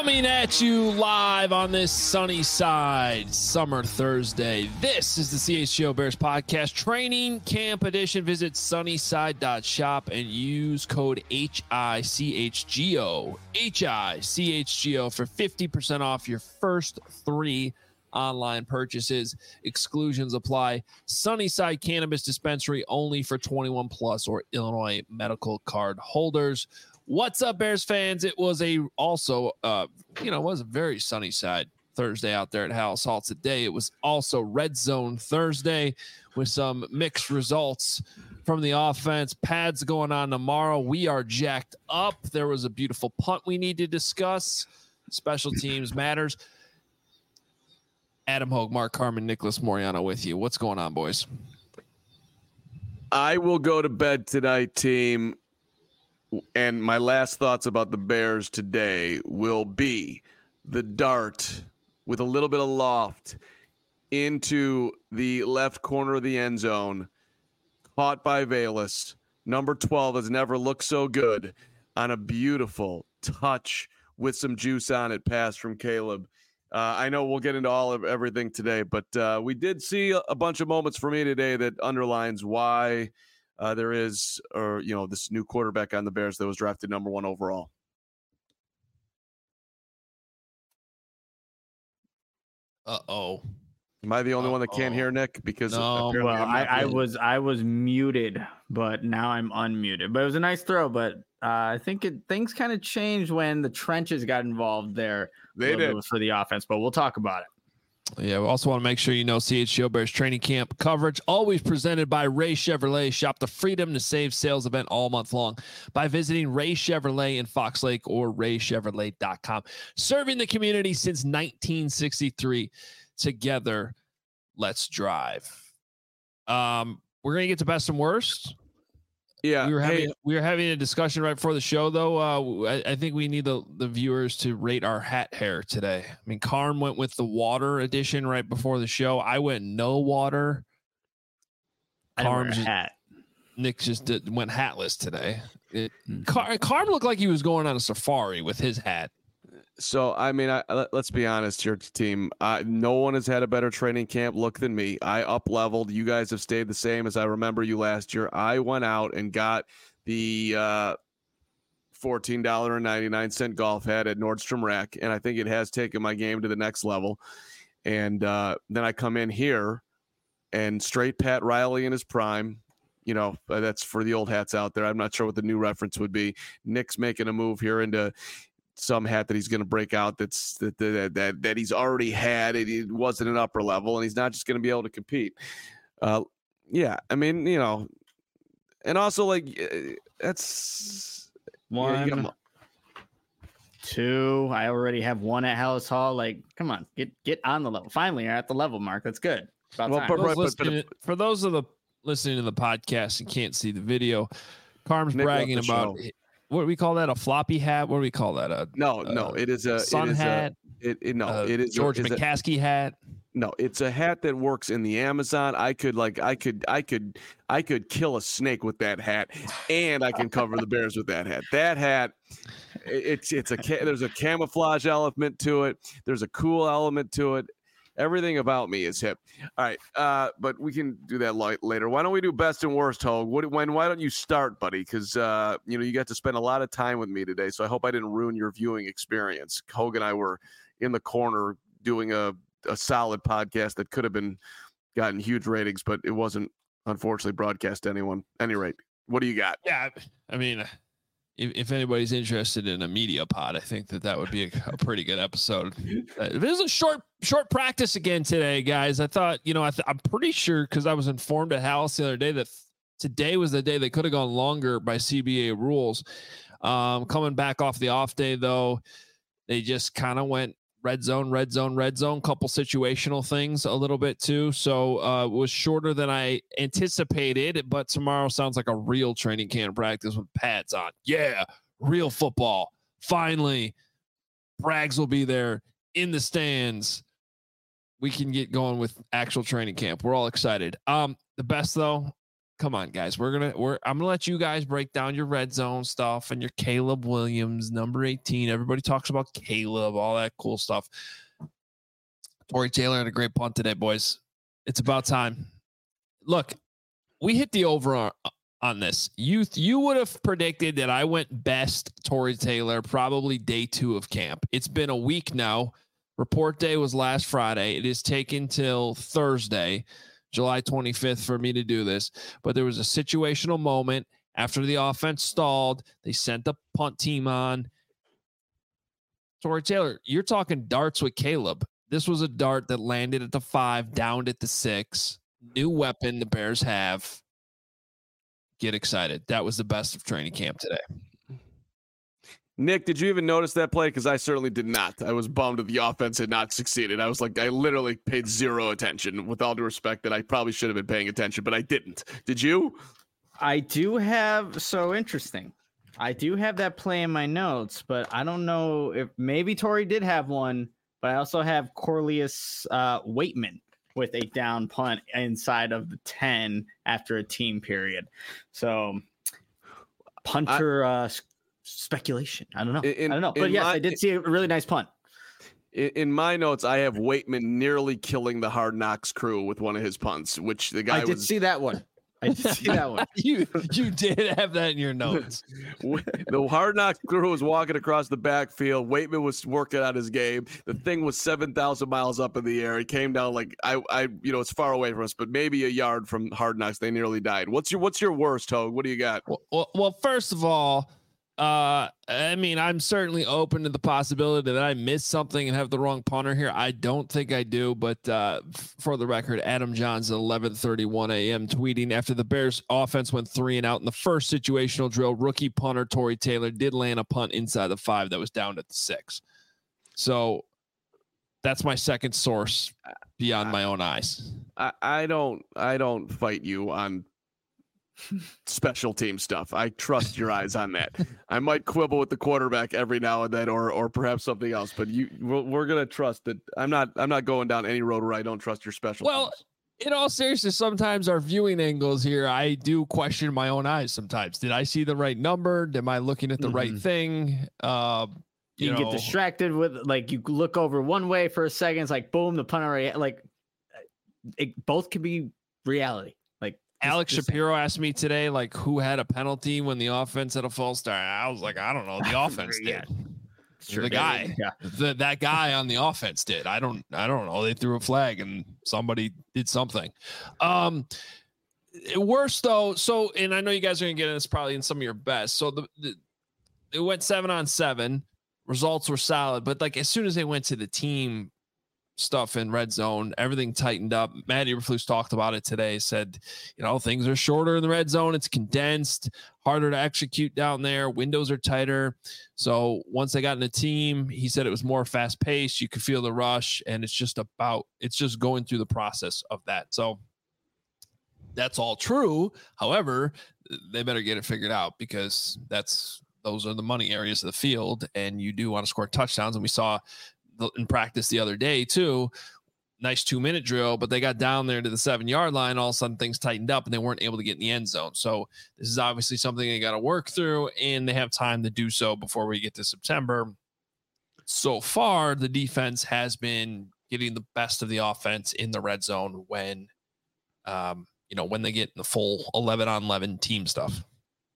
Coming at you live on this sunny side, summer Thursday. This is the CHGO Bears Podcast Training Camp Edition. Visit sunnyside.shop and use code HICHGO for 50% off your first 3 online purchases. Exclusions apply. Sunnyside Cannabis Dispensary only for 21 plus or Illinois medical card holders. What's up, Bears fans? It was it was a very sunny side Thursday out there at Halas Hall today. It was also Red Zone Thursday with some mixed results from the offense. Pads going on tomorrow. We are jacked up. There was a beautiful punt we need to discuss. Special teams matters. Adam Hogue, Mark Carman, Nicholas Moriano with you. What's going on, boys? I will go to bed tonight, team. And my last thoughts about the Bears today will be the dart with a little bit of loft into the left corner of the end zone, caught by Velus. Number 12 has never looked so good on a beautiful touch with some juice on it pass from Caleb. I know we'll get into everything today, but we did see a bunch of moments for me today that underlines why there is, this new quarterback on the Bears that was drafted number 1 overall. Uh-oh. Am I the only one that can't hear Nick? Because no, well, I was muted, but now I'm unmuted. But it was a nice throw. But I think things kind of changed when the trenches got involved there. They did for the offense, but we'll talk about it. Yeah, we also want to make sure you know CHGO Bears training camp coverage always presented by Ray Chevrolet. Shop the Freedom to Save sales event all month long by visiting Ray Chevrolet in Fox Lake or raychevrolet.com. Serving the community since 1963. Together, let's drive. We're gonna get to best and worst. Yeah, we were having a discussion right before the show, though. I think we need the viewers to rate our hat hair today. I mean, Carm went with the water edition right before the show. I went no water. Carm hat. Nick just went hatless today. Carm looked like he was going on a safari with his hat. So, I mean, let's be honest here, team. No one has had a better training camp look than me. I up-leveled. You guys have stayed the same as I remember you last year. I went out and got the $14.99 golf hat at Nordstrom Rack, and I think it has taken my game to the next level. And then I come in here, and straight Pat Riley in his prime. You know, that's for the old hats out there. I'm not sure what the new reference would be. Nick's making a move here into some hat that he's going to break out that he's already had. It wasn't an upper level, and he's not just going to be able to compete. Yeah, I mean, and also that's 1, 2. I already have 1 at Halas Hall. Come on, get on the level. Finally, you're at the level, Mark. That's good. For those of the listening to the podcast and can't see the video, Carm's bragging about. What do we call that? A floppy hat? What do we call that? No. It is a sun hat. It is George McCaskey hat. No, it's a hat that works in the Amazon. I could kill a snake with that hat, and I can cover the Bears with that hat. That hat, there's a camouflage element to it. There's a cool element to it. Everything about me is hip. All right, but we can do that later. Why don't we do best and worst, Hogue? Why don't you start, buddy? Because you got to spend a lot of time with me today, so I hope I didn't ruin your viewing experience. Hogue and I were in the corner doing a solid podcast that could have gotten huge ratings, but it wasn't, unfortunately, broadcast to anyone. At any rate, what do you got? Yeah, I mean, if anybody's interested in a media pod, I think that would be a pretty good episode. It is a short practice again today, guys. I thought, I'm pretty sure, because I was informed at Halas the other day that today was the day they could have gone longer by CBA rules. Coming back off the off day, though, they just kind of went red zone, couple situational things a little bit too. So it was shorter than I anticipated, but tomorrow sounds like a real training camp practice with pads on. Yeah, real football. Finally, Brags will be there in the stands. We can get going with actual training camp. We're all excited. The best, though, come on, guys. I'm gonna let you guys break down your red zone stuff and your Caleb Williams, number 18. Everybody talks about Caleb, all that cool stuff. Tory Taylor had a great punt today, boys. It's about time. Look, we hit the over on this. You would have predicted that I went best Tory Taylor probably day 2 of camp. It's been a week now. Report day was last Friday. It is taken till Thursday, July 25th, for me to do this. But there was a situational moment after the offense stalled. They sent the punt team on. Tory Taylor, you're talking darts with Caleb. This was a dart that landed at the 5, downed at the 6. New weapon the Bears have. Get excited. That was the best of training camp today. Nick, did you even notice that play? Because I certainly did not. I was bummed that the offense had not succeeded. I was like, I literally paid zero attention, with all due respect that I probably should have been paying attention, but I didn't. Did you? I do have, so interesting. I do have that play in my notes, but I don't know if maybe Tory did have one, but I also have Corlius Waitman with a down punt inside of the 10 after a team period. So punter speculation. I don't know. I don't know. But yes, I did see a really nice punt. In my notes, I have Waitman nearly killing the Hard Knocks crew with one of his punts, which the guy I did see that one. I did see that one. You did have that in your notes. The Hard Knocks crew was walking across the backfield. Waitman was working on his game. The thing was 7,000 miles up in the air. It came down like it's far away from us, but maybe a yard from Hard Knocks. They nearly died. What's your worst, Hogue? What do you got? Well, first of all, I mean, I'm certainly open to the possibility that I missed something and have the wrong punter here. I don't think I do, but for the record, Adam Johns at 11:31 a.m. tweeting after the Bears offense went 3 and out in the first situational drill, rookie punter Tory Taylor did land a punt inside the 5 that was down at the 6. So that's my second source beyond my own eyes. I don't fight you on special team stuff. I trust your eyes on that. I might quibble with the quarterback every now and then, or perhaps something else. But we're gonna trust that. I'm not going down any road where I don't trust your special. Well, teams. In all seriousness, sometimes our viewing angles here, I do question my own eyes. Sometimes, did I see the right number? Am I looking at the right thing? You get distracted with you look over one way for a second. It's like boom, the punter. Both could be reality. Alex Shapiro asked me today, who had a penalty when the offense had a false start. I was like, I don't know. The offense did. Sure, the guy, that guy on the offense did. I don't know. They threw a flag and somebody did something. Worse though. So, and I know you guys are gonna get in this probably in some of your best. So it went 7-on-7. Results were solid, but as soon as they went to the team stuff in red zone, everything tightened up. Matt Eberflus talked about it today, said, things are shorter in the red zone. It's condensed, harder to execute down there. Windows are tighter. So once they got in a team, he said it was more fast paced. You could feel the rush, and it's just going through the process of that. So that's all true. However, they better get it figured out, because those are the money areas of the field, and you do want to score touchdowns. And we saw in practice the other day too, nice 2-minute drill, but they got down there to the 7-yard line. All of a sudden things tightened up and they weren't able to get in the end zone. So this is obviously something they got to work through, and they have time to do so before we get to September. So far, the defense has been getting the best of the offense in the red zone when they get in the full 11-on-11 team stuff.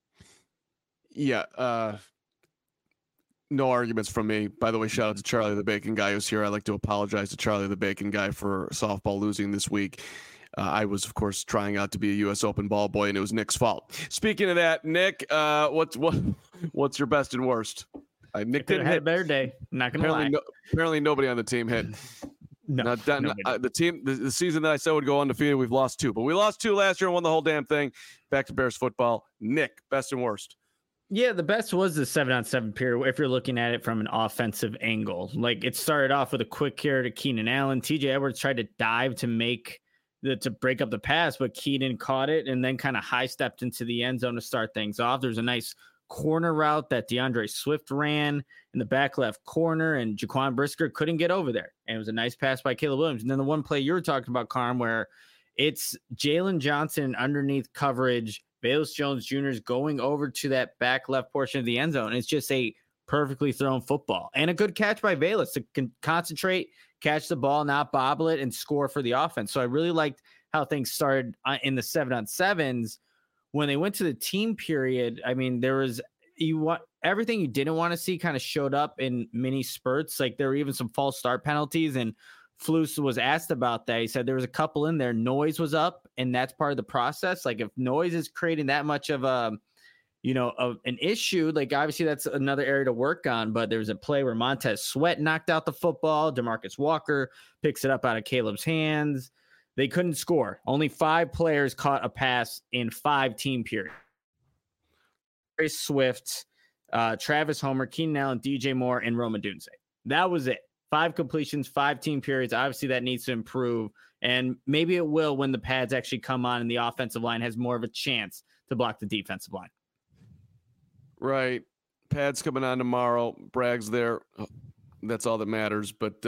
Yeah. No arguments from me. By the way, shout out to Charlie the Bacon guy who's here. I'd like to apologize to Charlie the Bacon guy for softball losing this week. I was, of course, trying out to be a U.S. Open ball boy, and it was Nick's fault. Speaking of that, Nick, what's your best and worst? Nick didn't hit. A better day. Not gonna lie. Apparently, nobody on the team hit. The season that I said would go undefeated, we've lost 2, but we lost 2 last year and won the whole damn thing. Back to Bears football. Nick, best and worst. Yeah, the best was the 7-on-7 period, if you're looking at it from an offensive angle. It started off with a quick carry to Keenan Allen. TJ Edwards tried to dive to break up the pass, but Keenan caught it and then kind of high-stepped into the end zone to start things off. There's a nice corner route that DeAndre Swift ran in the back left corner, and Jaquan Brisker couldn't get over there. And it was a nice pass by Caleb Williams. And then the one play you were talking about, Carm, where It's Jalen Johnson underneath coverage, Velus Jones Jr. is going over to that back left portion of the end zone. It's just a perfectly thrown football and a good catch by Velus to concentrate, catch the ball, not bobble it, and score for the offense. So I really liked how things started in the 7-on-7s. When they went to the team period, I mean, there was everything you didn't want to see kind of showed up in mini spurts. Like there were even some false start penalties, and Flus was asked about that. He said there was a couple in there. Noise was up, and that's part of the process. Like if noise is creating that much of an issue, like obviously that's another area to work on. But there was a play where Montez Sweat knocked out the football. DeMarcus Walker picks it up out of Caleb's hands. They couldn't score. Only 5 players caught a pass in 5 team periods. Very Swift, Travis Homer, Keenan Allen, DJ Moore, and Rome Odunze. That was it. 5 completions, 5 team periods. Obviously, that needs to improve. And maybe it will when the pads actually come on and the offensive line has more of a chance to block the defensive line. Right. Pads coming on tomorrow. Bragg's there. That's all that matters. But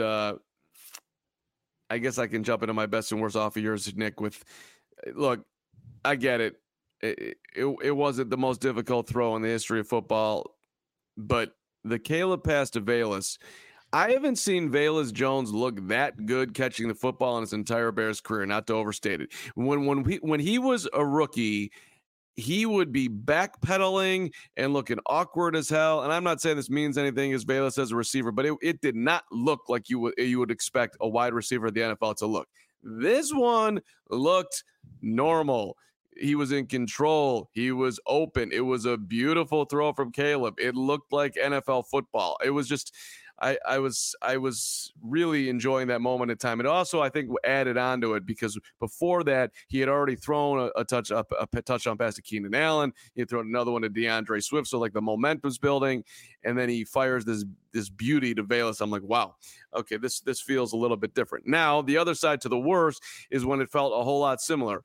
I guess I can jump into my best and worst off of yours, Nick, look, I get it. It wasn't the most difficult throw in the history of football, but the Caleb pass to Velus, I haven't seen Velus Jones look that good catching the football in his entire Bears career, not to overstate it. When he was a rookie, he would be backpedaling and looking awkward as hell. And I'm not saying this means anything as Velus as a receiver, but it did not look like you would expect a wide receiver of the NFL to look. This one looked normal. He was in control. He was open. It was a beautiful throw from Caleb. It looked like NFL football. It was just, I was really enjoying that moment in time. It also, I think, added on to it because before that, he had already thrown a touchdown pass to Keenan Allen. He had thrown another one to DeAndre Swift. So like the momentum's building, and then he fires this beauty to Velus. I'm like, wow, okay, this feels a little bit different. Now, the other side to the worst is when it felt a whole lot similar.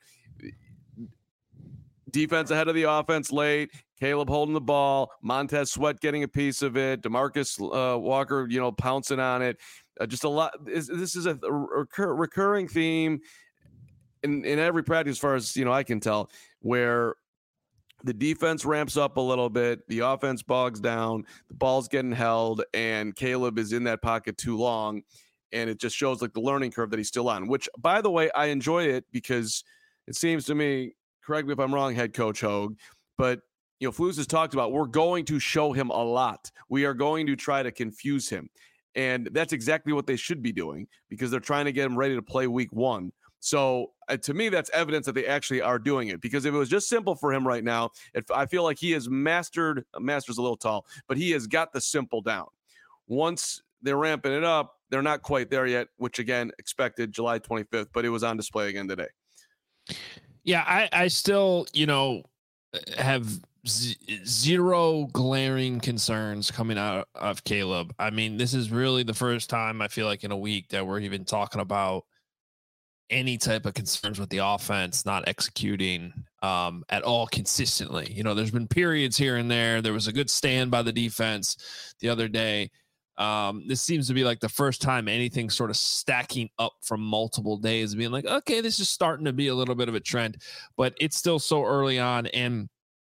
Defense ahead of the offense late. Caleb holding the ball. Montez Sweat getting a piece of it. DeMarcus Walker, pouncing on it. Just a lot. This is a recurring theme in every practice, as far as I can tell, where the defense ramps up a little bit, the offense bogs down, the ball's getting held, and Caleb is in that pocket too long, and it just shows like the learning curve that he's still on. Which, by the way, I enjoy it because it seems to me. Correct me if I'm wrong, head coach Hogue, but Flus has talked about we're going to show him a lot. We are going to try to confuse him, and that's exactly what they should be doing because they're trying to get him ready to play week 1. So to me, that's evidence that they actually are doing it. Because if it was just simple for him right now, I feel like he has master's a little tall, but he has got the simple down. Once they're ramping it up, they're not quite there yet, which again expected July 25th, but it was on display again today. Yeah, I still, have zero glaring concerns coming out of Caleb. I mean, this is really the first time I feel like in a week that we're even talking about any type of concerns with the offense not executing at all consistently. There's been periods here and there. There was a good stand by the defense the other day. This seems to be like the first time anything sort of stacking up from multiple days, being like, okay, this is starting to be a little bit of a trend, but it's still so early on. And,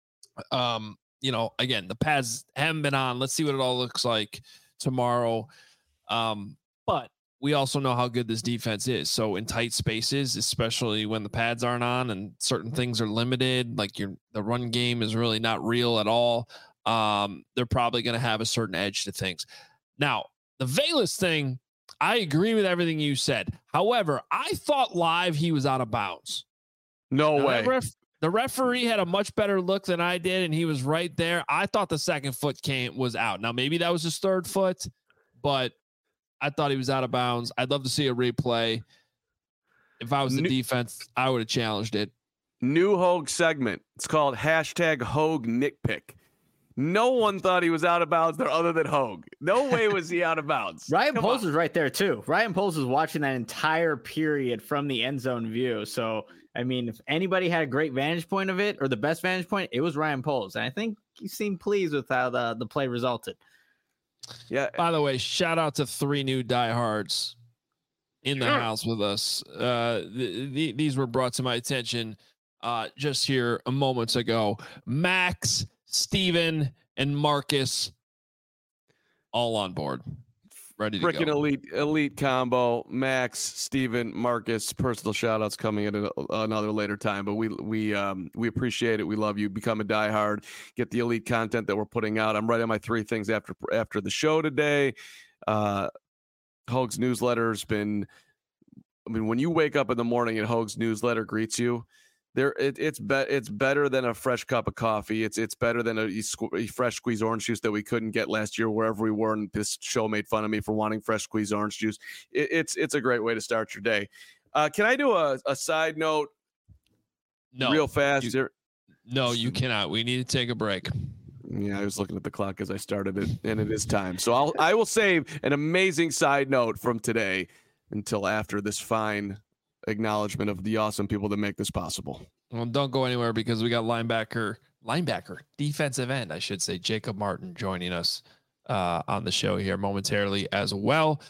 again, the pads haven't been on. Let's see what it all looks like tomorrow. But we also know how good this defense is. So in tight spaces, especially when the pads aren't on and certain things are limited, like the run game is really not real at all. They're probably going to have a certain edge to things. Now, the Velus thing, I agree with everything you said. However, I thought live he was out of bounds. No way. The referee had a much better look than I did, and he was right there. I thought the second foot was out. Now, maybe that was his third foot, but I thought he was out of bounds. I'd love to see a replay. If I was the defense, I would have challenged it. New Hogue segment. It's called #Hogue Nitpick. No one thought he was out of bounds there other than Hogue. No way was he out of bounds. Ryan Poles was right there too. Ryan Poles was watching that entire period from the end zone view. So, I mean, if anybody had a great vantage point of it or the best vantage point, it was Ryan Poles. And I think he seemed pleased with how the play resulted. Yeah. By the way, shout out to 3 new diehards in the house with us. These were brought to my attention just here a moments ago. Max, Steven, and Marcus all on board. Ready to Freaking go. elite combo. Max, Steven, Marcus, personal shout outs coming at another later time. But we appreciate it. We love you. Become a diehard. Get the elite content that we're putting out. I'm writing my 3 things after the show today. Hoag's newsletter's been, when you wake up in the morning and Hoag's newsletter greets you, it's better than a fresh cup of coffee. It's better than a fresh squeezed orange juice that we couldn't get last year wherever we were, and this show made fun of me for wanting fresh squeezed orange juice. It's a great way to start your day. Can I do a side note? No, real fast here. No, you cannot. We need to take a break. Yeah, I was looking at the clock as I started it, and it is time. So I will save an amazing side note from today until after this fine acknowledgement of the awesome people that make this possible. Well, don't go anywhere because we got defensive end, I should say, Jacob Martin joining us on the show here momentarily as well.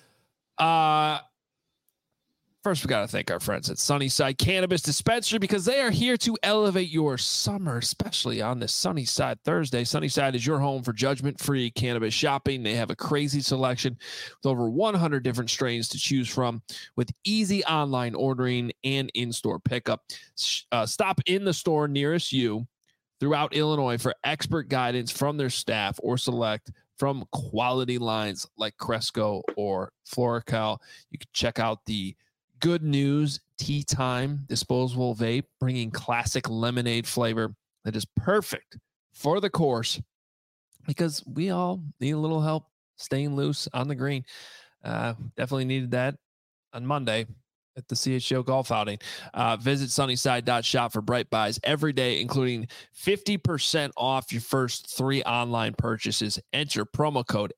First, we got to thank our friends at Sunnyside Cannabis Dispensary because they are here to elevate your summer, especially on this Sunnyside Thursday. Sunnyside is your home for judgment-free cannabis shopping. They have a crazy selection with over 100 different strains to choose from with easy online ordering and in-store pickup. Stop in the store nearest you throughout Illinois for expert guidance from their staff or select from quality lines like Cresco or Florical. You can check out the Good News Tea Time disposable vape, bringing classic lemonade flavor that is perfect for the course because we all need a little help staying loose on the green. Definitely needed that on Monday at the CHGO golf outing. Visit sunnyside.shop for bright buys every day, including 50% off your first 3 online purchases. Enter promo code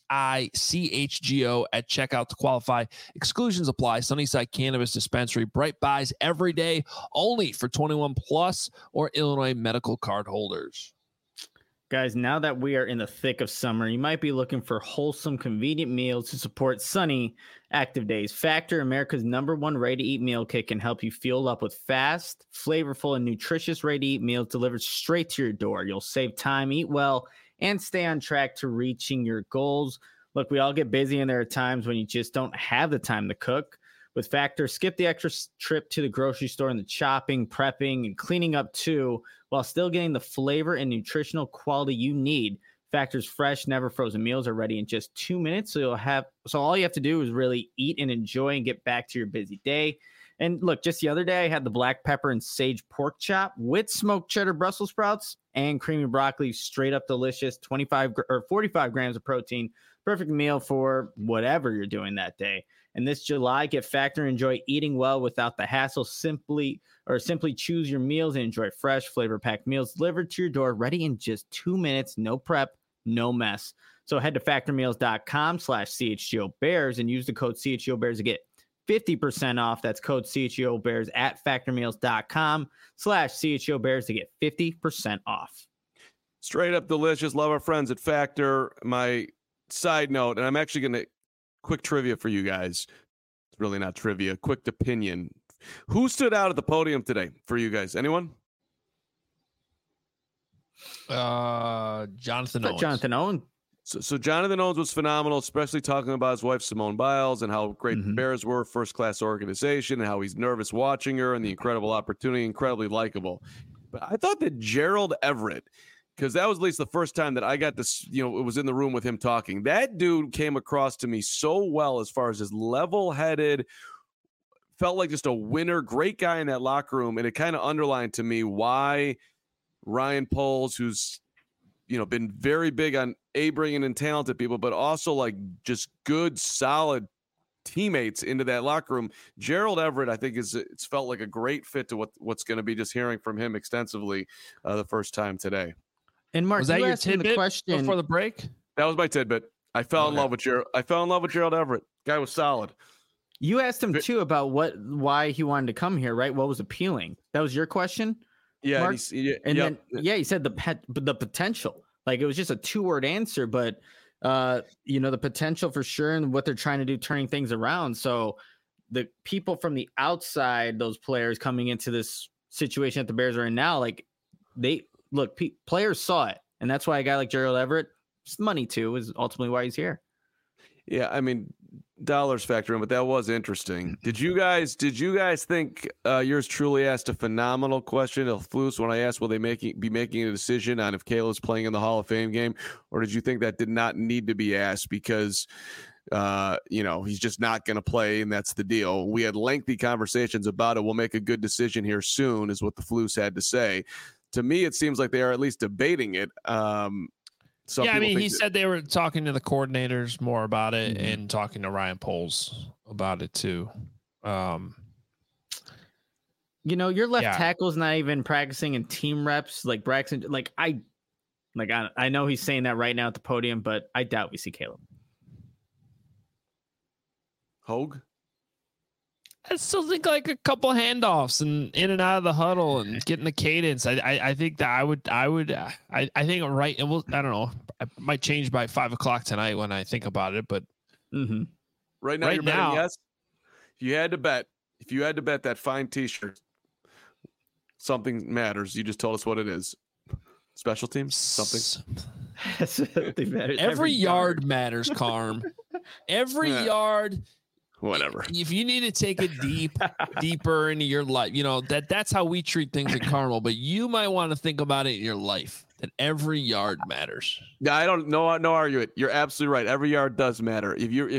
HICHGO at checkout to qualify. Exclusions apply. Sunnyside Cannabis Dispensary, bright buys every day, only for 21 plus or Illinois medical card holders. Guys, now that we are in the thick of summer, you might be looking for wholesome, convenient meals to support sunny, active days. Factor, America's #1 ready-to-eat meal kit, can help you fuel up with fast, flavorful, and nutritious ready-to-eat meals delivered straight to your door. You'll save time, eat well, and stay on track to reaching your goals. Look, we all get busy, and there are times when you just don't have the time to cook. With Factor, skip the extra trip to the grocery store and the chopping, prepping, and cleaning up too, while still getting the flavor and nutritional quality you need. Factor's fresh, never frozen meals are ready in just 2 minutes. So all you have to do is really eat and enjoy and get back to your busy day. And look, just the other day, I had the black pepper and sage pork chop with smoked cheddar Brussels sprouts and creamy broccoli. Straight up delicious, 25 or 45 grams of protein. Perfect meal for whatever you're doing that day. And this July, get Factor and enjoy eating well without the hassle. Simply choose your meals and enjoy fresh, flavor-packed meals delivered to your door, ready in just 2 minutes. No prep, no mess. So head to factormeals.com/CHGO Bears and use the code CHGO Bears to get 50% off. That's code CHGO Bears at factormeals.com/CHGO Bears to get 50% off. Straight up delicious. Love our friends at Factor. My side note, and I'm actually going to quick trivia for you guys. It's really not trivia. Quick opinion. Who stood out at the podium today for you guys? Anyone? Jonathan Owens. Jonathan Owens. So Jonathan Owens was phenomenal, especially talking about his wife, Simone Biles, and how great the Bears were, first-class organization, and how he's nervous watching her and the incredible opportunity, incredibly likable. But I thought that Gerald Everett, because that was at least the first time that I got this, it was in the room with him talking. That dude came across to me so well as far as his level-headed, felt like just a winner, great guy in that locker room. And it kind of underlined to me why Ryan Poles, who's, been very big on bringing in talented people, but also like just good, solid teammates into that locker room. Gerald Everett, I think it's felt like a great fit to what's going to be just hearing from him extensively the first time today. And Mark, was that your tidbit question before the break? That was my tidbit. I fell in love with Gerald. I fell in love with Gerald Everett. Guy was solid. You asked him too about why he wanted to come here, right? What was appealing? That was your question. Yeah, Mark? Then he said the potential. Like it was just a 2-word answer, but the potential for sure and what they're trying to do, turning things around. So the people from the outside, those players coming into this situation that the Bears are in now, like players saw it, and that's why a guy like Gerald Everett, it's money too, is ultimately why he's here. Yeah, I mean, dollars factor in, but that was interesting. Did you guys think yours truly asked a phenomenal question, El Flus, when I asked will they be making a decision on if Caleb's playing in the Hall of Fame game, or did you think that did not need to be asked because he's just not going to play, and that's the deal? We had lengthy conversations about it. We'll make a good decision here soon, is what the Flus had to say. To me, it seems like they are at least debating it. He said they were talking to the coordinators more about it and talking to Ryan Poles about it too. Your left tackle's not even practicing in team reps. Like Braxton, I know he's saying that right now at the podium, but I doubt we see Caleb. Hogue? I still think like a couple handoffs and in and out of the huddle and getting the cadence. I think that I think right. And I don't know. I might change by 5:00 tonight when I think about it, but right now you're betting yes. If you had to bet that fine T-shirt, something matters. You just told us what it is. Special teams, something. Every yard matters, Carm. Every yard. Whatever. If you need to take it deeper into your life, that's how we treat things at Carmel. But you might want to think about it in your life, that every yard matters. Yeah, I don't no argue it. You're absolutely right. Every yard does matter. If you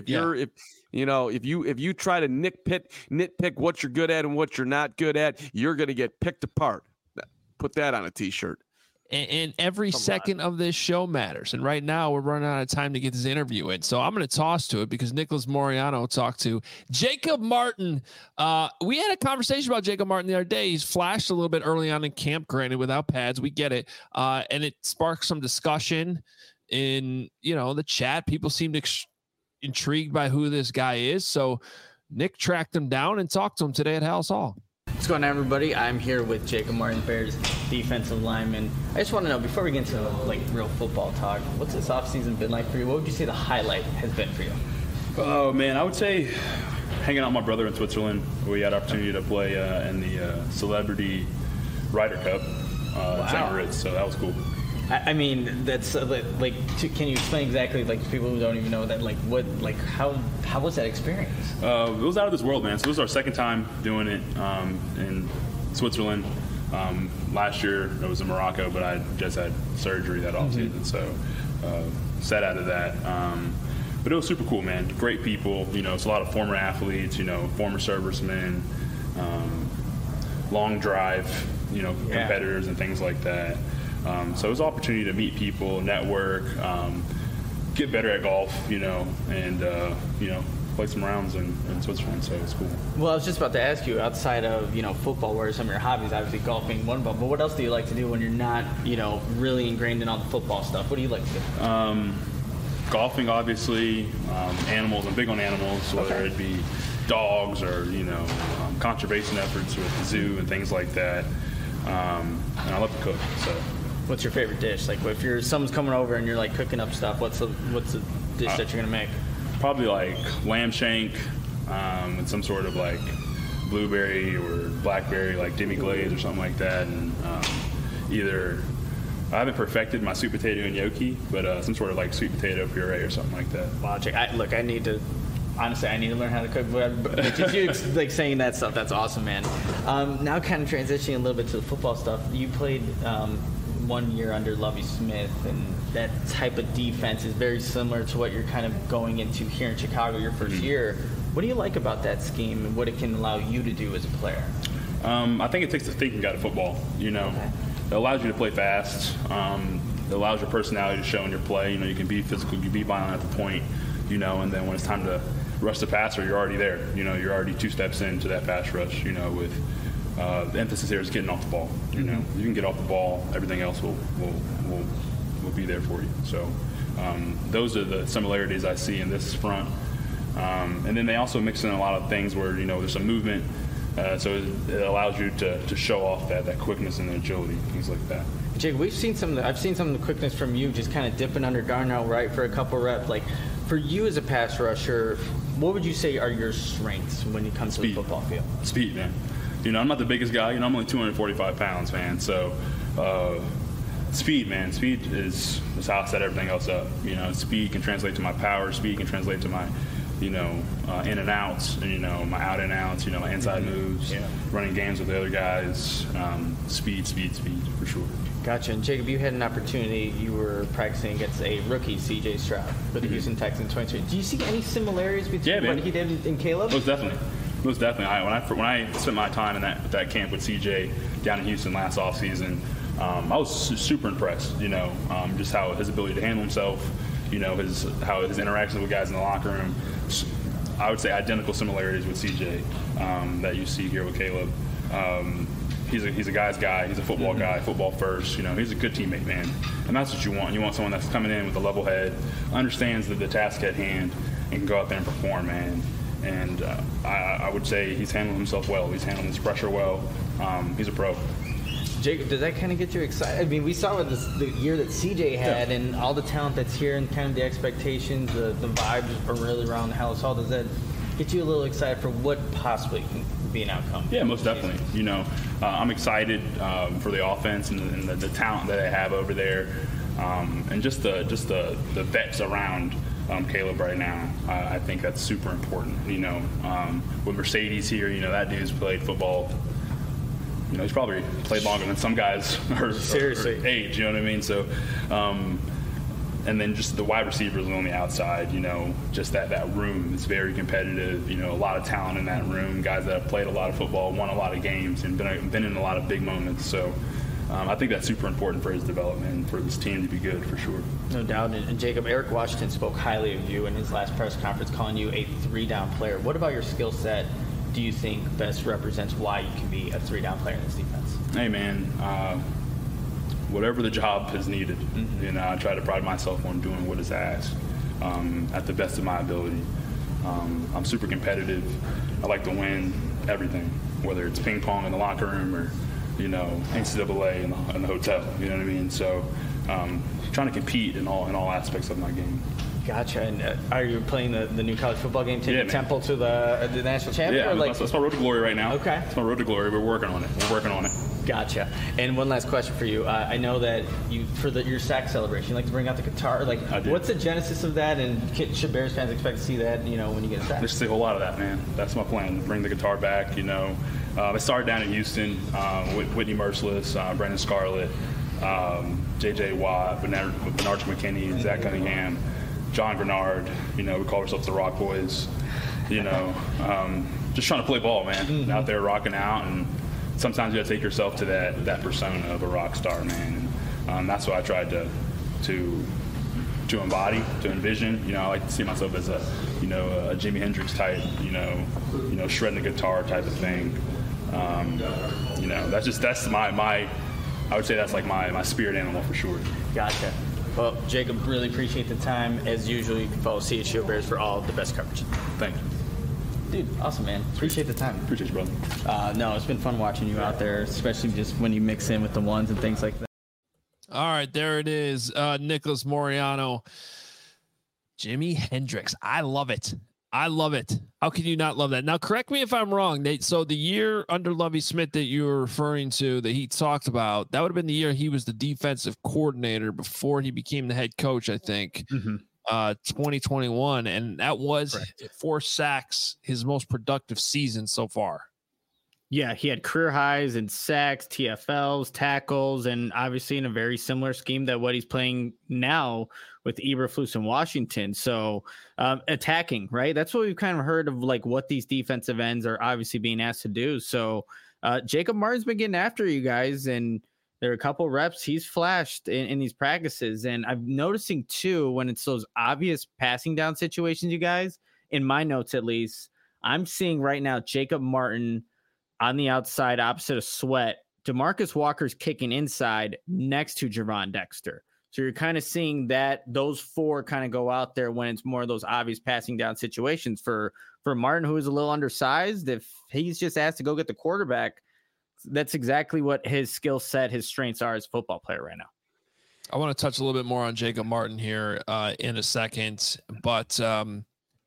try to nitpick what you're good at and what you're not good at, you're going to get picked apart. Put that on a T-shirt. And every second of this show matters. And right now we're running out of time to get this interview in. So I'm going to toss to it because Nicholas Moriano talked to Jacob Martin. We had a conversation about Jacob Martin the other day. He's flashed a little bit early on in camp, granted without pads. We get it. And it sparked some discussion in, the chat. People seemed intrigued by who this guy is. So Nick tracked him down and talked to him today at Halas Hall. What's going on, everybody? I'm here with Jacob Martin, Bears defensive lineman. I just want to know, before we get into real football talk, what's this offseason been like for you? What would you say the highlight has been for you? Oh, man, I would say hanging out with my brother in Switzerland. We had opportunity to play in the Celebrity Ryder Cup in St. Moritz, so that was cool. I mean, that's can you explain exactly, to people who don't even know that, how was that experience? It was out of this world, man. So this was our second time doing it in Switzerland. Last year it was in Morocco, but I just had surgery that offseason, so set out of that. But it was super cool, man. Great people. It's a lot of former athletes, former servicemen, long drive, competitors and things like that. So it was an opportunity to meet people, network, get better at golf, and play some rounds in Switzerland. So it was cool. Well, I was just about to ask you, outside of football, what are some of your hobbies? Obviously, golf being one of them. But what else do you like to do when you're not really ingrained in all the football stuff? What do you like to do? Golfing, obviously. Animals. I'm big on animals, whether it be dogs or conservation efforts with the zoo and things like that. And I love to cook. So. What's your favorite dish? If someone's coming over and you're cooking up stuff, what's the dish that you're gonna make? Probably lamb shank with some sort of blueberry or blackberry demi-glaze or something like that, and either I haven't perfected my sweet potato and gnocchi, but some sort of sweet potato puree or something like that. Wow, I need to. Honestly, I need to learn how to cook. But just you saying that stuff, that's awesome, man. Now kind of transitioning a little bit to the football stuff. You played 1 year under Lovie Smith, and that type of defense is very similar to what you're kind of going into here in Chicago your first year. What do you like about that scheme and what it can allow you to do as a player? I think it takes the thinking out of football. It allows you to play fast. It allows your personality to show in your play. You can be physical, you can be violent at the point, and then when it's time to rush the passer, you're already there. You're already 2 steps into that pass rush, with the emphasis here is getting off the ball. You can get off the ball, everything else will be there for you. So those are the similarities I see in this front. And then they also mix in a lot of things where, there's some movement. So it allows you to show off that quickness and agility, things like that. Jake, I've seen some of the quickness from you, just kind of dipping under Darnell Wright for a couple reps. For you as a pass rusher, What would you say are your strengths when it comes to the football field? Speed, man. I'm not the biggest guy. I'm only 245 pounds, man. So, speed, man. Speed is how I set everything else up. Speed can translate to my power. Speed can translate to my, in and outs, and, my out and outs, my inside moves, running games with the other guys. Speed, for sure. Gotcha. And Jacob, you had an opportunity. You were practicing against a rookie, C.J. Stroud, for the Houston Texans 2020. Do you see any similarities between what he did in Caleb? Most definitely. When I spent my time in that camp with C.J. down in Houston last offseason, I was super impressed. Just how his ability to handle himself, how his interactions with guys in the locker room. I would say identical similarities with C.J. That you see here with Caleb. He's a guy's guy. He's a football guy, football first. He's a good teammate, man. And that's what you want. You want someone that's coming in with a level head, understands the task at hand, and can go out there and perform, man. And I would say he's handling himself well. He's handling his pressure well. He's a pro. Jacob, does that kind of get you excited? I mean, we saw with the year that CJ had and all the talent that's here and kind of the expectations, the vibes are really around the house. How does that get you a little excited for what possibly can be an outcome? Yeah, most definitely. I'm excited for the offense and the talent that they have over there, and just the vets around Caleb right now. I think that's super important. With Mercedes here, that dude's played football. He's probably played longer than some guys are age. You know what I mean? So, and then just the wide receivers on the outside. Just that room is very competitive. A lot of talent in that room. Guys that have played a lot of football, won a lot of games, and been in a lot of big moments. So, I think that's super important for his development and for this team to be good for sure. No doubt. And Jacob, Eric Washington spoke highly of you in his last press conference, calling you a 3-down player. What about your skill set do you think best represents why you can be a 3-down player in this defense? Hey, man, whatever the job is needed, I try to pride myself on doing what is asked at the best of my ability. I'm super competitive. I like to win everything, whether it's ping pong in the locker room or, NCAA in the hotel. You know what I mean? So trying to compete in all aspects of my game. Gotcha. And are you playing the new college football game, taking Temple to the national championship? Yeah, that's my road to glory right now. Okay. It's my road to glory. We're working on it. Gotcha. And one last question for you. I know that your sack celebration, you like to bring out the guitar. What's the genesis of that? And should Bears fans expect to see that, when you get a sack? There's a whole lot of that, man. That's my plan, to bring the guitar back, I started down in Houston with Whitney Merciless, Brandon Scarlett, J.J. Watt, Bernard McKinney, Zach Cunningham, John Grenard. We call ourselves the Rock Boys. Just trying to play ball, man. Out there rocking out, and sometimes you got to take yourself to that persona of a rock star, man. And that's what I tried to embody, to envision. I like to see myself as a Jimi Hendrix type, shredding the guitar type of thing. That's my I would say that's like my spirit animal for sure. Gotcha. Well, Jacob, really appreciate the time. As usual, you can follow CHGO Bears for all the best coverage. Thank you. Dude, awesome, man. Appreciate the time. Appreciate you, brother. No, it's been fun watching you out there, especially just when you mix in with the ones and things like that. All right, there it is. Nicholas Moreano. Jimi Hendrix. I love it. How can you not love that? Now, correct me if I'm wrong, Nate. So the year under Lovie Smith that you were referring to, that he talked about, that would have been the year he was the defensive coordinator before he became the head coach, I think. 2021. And that was 4 sacks, his most productive season so far. Yeah, he had career highs in sacks, TFLs, tackles, and obviously in a very similar scheme that what he's playing now with Eberflus in Washington. So attacking, right? That's what we've kind of heard of, what these defensive ends are obviously being asked to do. So Jacob Martin's been getting after you guys, and there are a couple reps he's flashed in these practices. And I'm noticing too, when it's those obvious passing down situations, you guys, in my notes at least, I'm seeing right now Jacob Martin on the outside opposite of Sweat. DeMarcus Walker's kicking inside next to Javon Dexter. So you're kind of seeing that those 4 kind of go out there when it's more of those obvious passing down situations for Martin, who is a little undersized. If he's just asked to go get the quarterback, that's exactly what his skill set, his strengths are as a football player right now. I want to touch a little bit more on Jacob Martin here in a second, but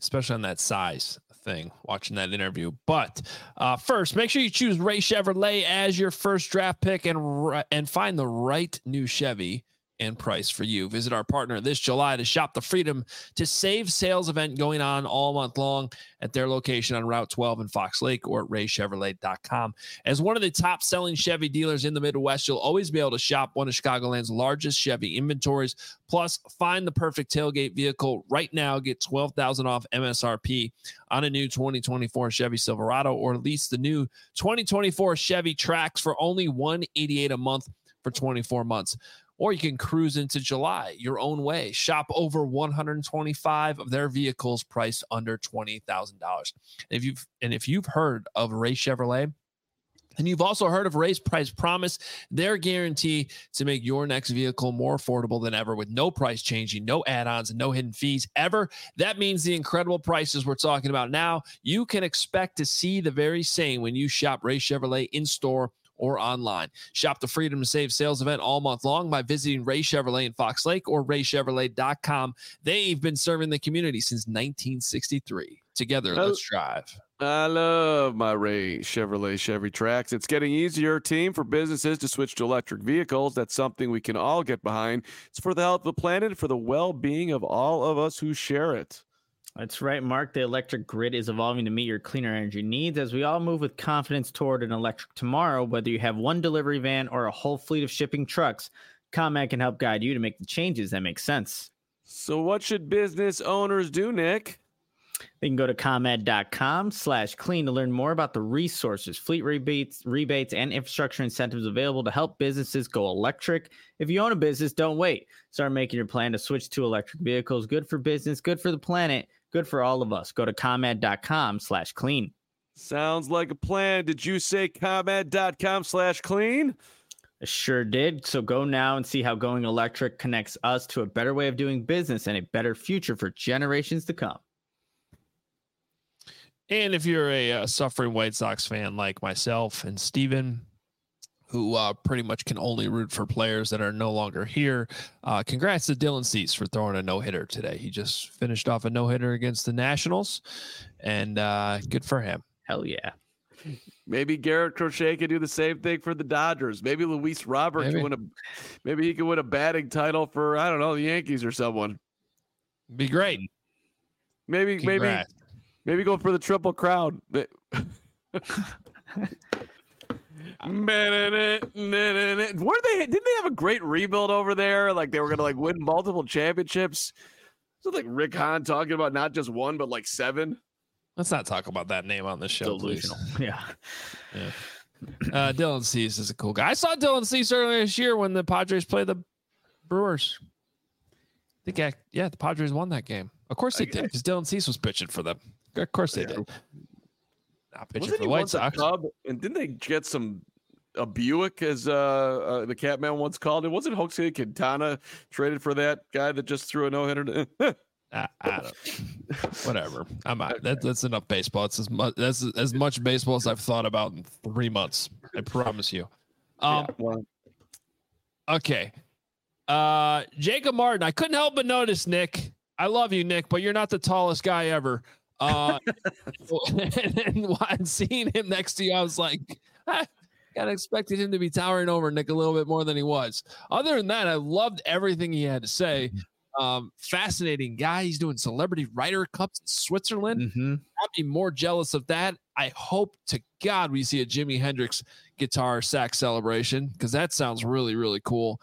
especially on that size thing, watching that interview. But first, make sure you choose Ray Chevrolet as your first draft pick and find the right new Chevy and price for you. Visit our partner this July to shop the Freedom to Save sales event going on all month long at their location on Route 12 in Fox Lake or at raychevrolet.com. As one of the top selling Chevy dealers in the Midwest, you'll always be able to shop one of Chicagoland's largest Chevy inventories. Plus, find the perfect tailgate vehicle right now. Get $12,000 off MSRP on a new 2024 Chevy Silverado, or lease the new 2024 Chevy Trax for only $188 a month for 24 months. Or you can cruise into July your own way. Shop over 125 of their vehicles priced under $20,000. If you've heard of Ray Chevrolet, and you've also heard of Ray's Price Promise, their guarantee to make your next vehicle more affordable than ever with no price changing, no add-ons, and no hidden fees ever. That means the incredible prices we're talking about now, you can expect to see the very same when you shop Ray Chevrolet in store or online. Shop the Freedom to Save sales event all month long by visiting Ray Chevrolet in Fox Lake or raychevrolet.com. They've been serving the community since 1963. Together, let's drive. I love my Ray Chevrolet Chevy Trax. It's getting easier, team, for businesses to switch to electric vehicles. That's something we can all get behind. It's for the health of the planet, for the well-being of all of us who share it. That's right, Mark. The electric grid is evolving to meet your cleaner energy needs as we all move with confidence toward an electric tomorrow. Whether you have one delivery van or a whole fleet of shipping trucks, ComEd can help guide you to make the changes that make sense. So what should business owners do, Nick? They can go to ComEd.com/clean to learn more about the resources, fleet rebates, and infrastructure incentives available to help businesses go electric. If you own a business, don't wait. Start making your plan to switch to electric vehicles. Good for business, good for the planet, good for all of us. Go to ComEd.com/clean. Sounds like a plan. Did you say ComEd.com/clean? I sure did. So go now and see how going electric connects us to a better way of doing business and a better future for generations to come. And if you're a suffering White Sox fan like myself and Steven, who pretty much can only root for players that are no longer here, congrats to Dylan Cease for throwing a no-hitter today. He just finished off a no-hitter against the Nationals, and good for him. Hell yeah. Maybe Garrett Crochet could do the same thing for the Dodgers. Maybe Luis Robert can win maybe he could win a batting title for, I don't know, the Yankees or someone. Be great. Maybe go for the Triple Crown. Didn't they have a great rebuild over there? Like they were gonna win multiple championships. So like Rick Hahn talking about not just one but like 7. Let's not talk about that name on this show, Delusional. please. Yeah. Dylan Cease is a cool guy. I saw Dylan Cease earlier this year when the Padres played the Brewers. I think the Padres won that game. Of course they did, because Dylan Cease was pitching for them. Of course they did. Not pitching for the White Sox. And didn't they get a Buick, as the Catman once called it? Wasn't Jose Quintana traded for that guy that just threw a no-hitter? I don't. Whatever. I'm out. That's enough baseball. It's as much baseball as I've thought about in 3 months. I promise you. Okay. Jacob Martin. I couldn't help but notice, Nick. I love you, Nick, but you're not the tallest guy ever. And seeing him next to you, I was like, kind of expected him to be towering over Nick a little bit more than he was. Other than that, I loved everything he had to say. Fascinating guy. He's doing celebrity Ryder Cups in Switzerland. Mm-hmm. I'd be more jealous of that. I hope to God we see a Jimi Hendrix guitar sax celebration, because that sounds really, really cool.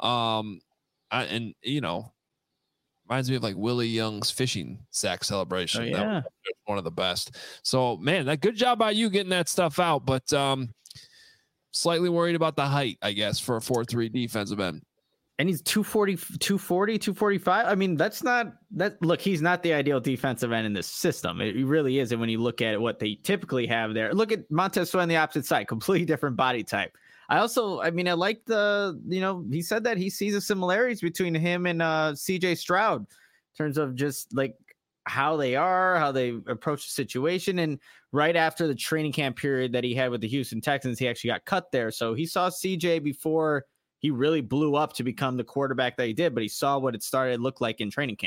Reminds me of like Willie Young's fishing sax celebration. Oh, yeah. That was one of the best. So, man, that good job by you getting that stuff out. But slightly worried about the height, I guess, for a 4-3 defensive end. And he's 245. I mean, look, he's not the ideal defensive end in this system. It really isn't when you look at what they typically have there. Look at Montez Sweat on the opposite side, completely different body type. I like he said that he sees the similarities between him and CJ Stroud in terms of just like how they approach the situation. And right after the training camp period that he had with the Houston Texans, he actually got cut there. So he saw CJ before he really blew up to become the quarterback that he did, but he saw what it started to look like in training camp.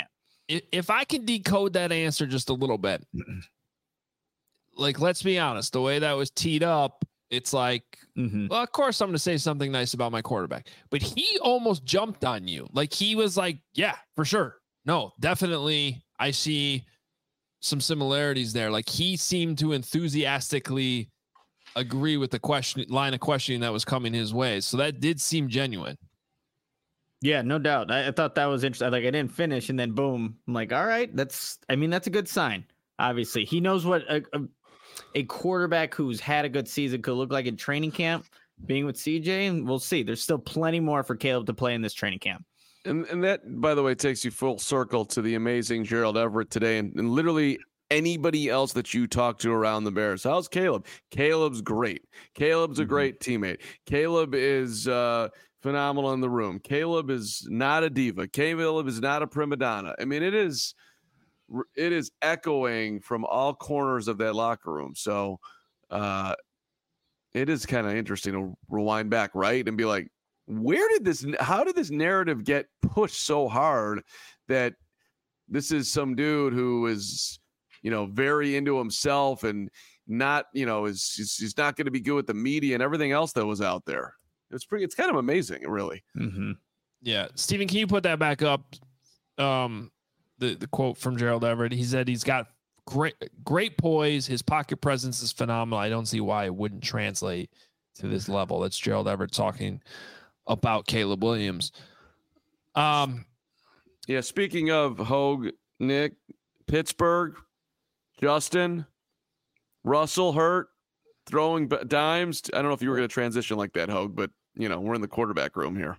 if I can decode that answer just a little bit, like, let's be honest, the way that was teed up, it's like, well, of course I'm going to say something nice about my quarterback, but he almost jumped on you. Like, he was like, yeah, for sure. No, definitely. I see some similarities there. Like, he seemed to enthusiastically agree with the line of questioning that was coming his way. So that did seem genuine. Yeah, no doubt. I thought that was interesting. Like, I didn't finish, and then boom, I'm like, all right, that's a good sign. Obviously, he knows what a quarterback who's had a good season could look like in training camp, being with CJ, and we'll see. There's still plenty more for Caleb to play in this training camp. And that, by the way, takes you full circle to the amazing Gerald Everett today, and literally anybody else that you talk to around the Bears. How's Caleb? Caleb's great. Caleb's a great teammate. Caleb is phenomenal in the room. Caleb is not a diva. Caleb is not a prima donna. I mean, it is echoing from all corners of that locker room. So it is kind of interesting to rewind back, right? And be like, how did this narrative get pushed so hard that this is some dude who is, very into himself and not, he's not going to be good with the media and everything else that was out there. It's kind of amazing, really. Mm-hmm. Yeah. Steven, can you put that back up? The quote from Gerald Everett, he said he's got great poise. His pocket presence is phenomenal. I don't see why it wouldn't translate to this level. That's Gerald Everett talking about Caleb Williams. Yeah. Speaking of Hogue, Nick, Pittsburgh, Justin, Russell hurt, throwing dimes. I don't know if you were going to transition like that, Hogue, but we're in the quarterback room here.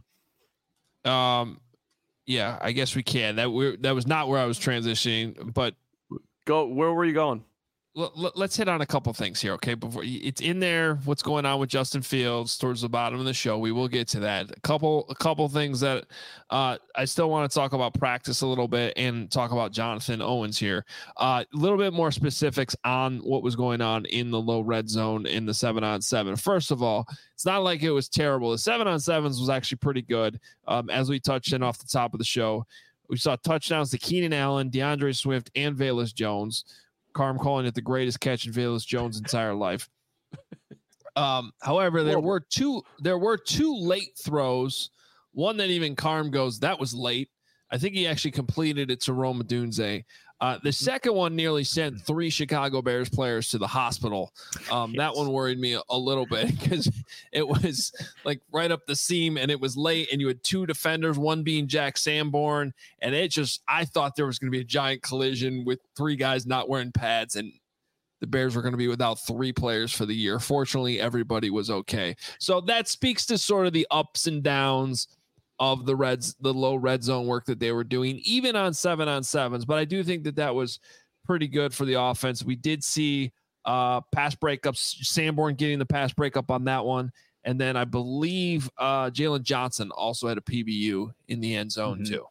Yeah, I guess we can. That was not where I was transitioning, but where were you going? Let's hit on a couple things here, okay? Before it's in there, what's going on with Justin Fields towards the bottom of the show. We will get to that. A couple things that I still want to talk about practice a little bit and talk about Jonathan Owens here. A little bit more specifics on what was going on in the low red zone in the 7-on-7. First of all, it's not like it was terrible. The 7-on-7s was actually pretty good. As we touched in off the top of the show, we saw touchdowns to Keenan Allen, DeAndre Swift, and Velus Jones. Carm calling it the greatest catch in Velus Jones' entire life. However, there were two late throws. One that even Carm goes, that was late. I think he actually completed it to Rome Odunze. The second one nearly sent 3 Chicago Bears players to the hospital. That one worried me a little bit because it was like right up the seam and it was late and you had 2 defenders, one being Jack Sanborn. And I thought there was going to be a giant collision with 3 guys not wearing pads and the Bears were going to be without 3 players for the year. Fortunately, everybody was okay. So that speaks to sort of the ups and downs of the low red zone work that they were doing, even on 7-on-7s. But I do think that was pretty good for the offense. We did see pass breakups, Sanborn getting the pass breakup on that one. And then I believe Jalen Johnson also had a PBU in the end zone too.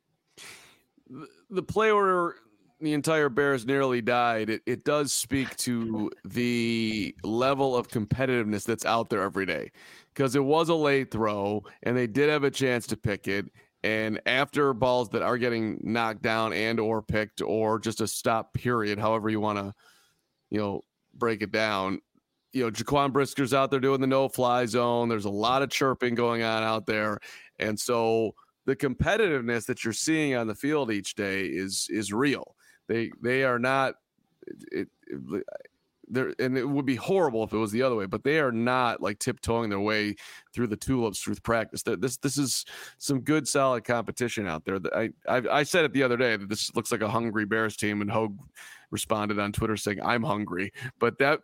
The play where the entire Bears nearly died, it does speak to the level of competitiveness that's out there every day. Because it was a late throw, and they did have a chance to pick it. And after balls that are getting knocked down and or picked or just a stop period, however you want to, break it down, Jaquan Brisker's out there doing the no-fly zone. There's a lot of chirping going on out there. And so the competitiveness that you're seeing on the field each day is real. They are not and it would be horrible if it was the other way, but they are not like tiptoeing their way through the tulips through practice. This is some good, solid competition out there. I said it the other day that this looks like a hungry Bears team, and Hogue responded on Twitter saying, "I'm hungry," but that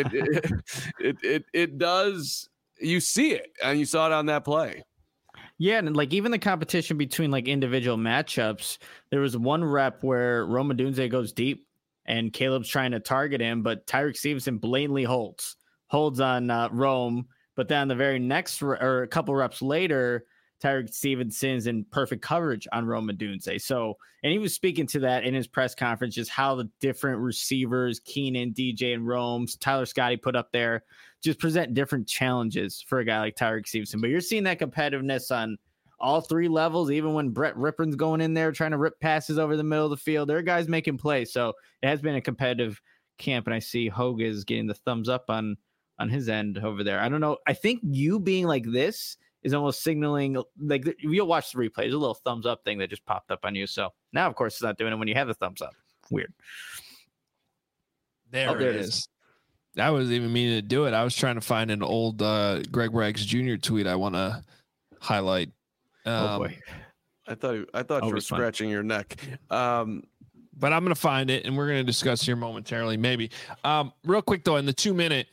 it does. You see it, and you saw it on that play. Yeah, and like even the competition between like individual matchups, there was one rep where Rome Odunze goes deep. And Caleb's trying to target him, but Tyreek Stevenson blatantly holds on Rome. But then the very next or a couple reps later, Tyreek Stevenson's in perfect coverage on Rome Odunze. So, and he was speaking to that in his press conference, just how the different receivers, Keenan, DJ, and Rome, Tyler Scotty put up there, just present different challenges for a guy like Tyreek Stevenson. But you're seeing that competitiveness on all three levels, even when Brett Rippon's going in there trying to rip passes over the middle of the field. There are guys making plays. So it has been a competitive camp, and I see Hogue is getting the thumbs up on his end over there. I don't know. I think you being like this is almost signaling, like, you'll watch the replay. There's a little thumbs up thing that just popped up on you. So now, of course, it's not doing it when you have the thumbs up. Weird. There it is. I wasn't even meaning to do it. I was trying to find an old Greg Braggs Jr. tweet I want to highlight. Oh boy. I thought you were scratching your neck. But I'm going to find it, and we're going to discuss here momentarily, maybe. Real quick, though, in the 2-minute,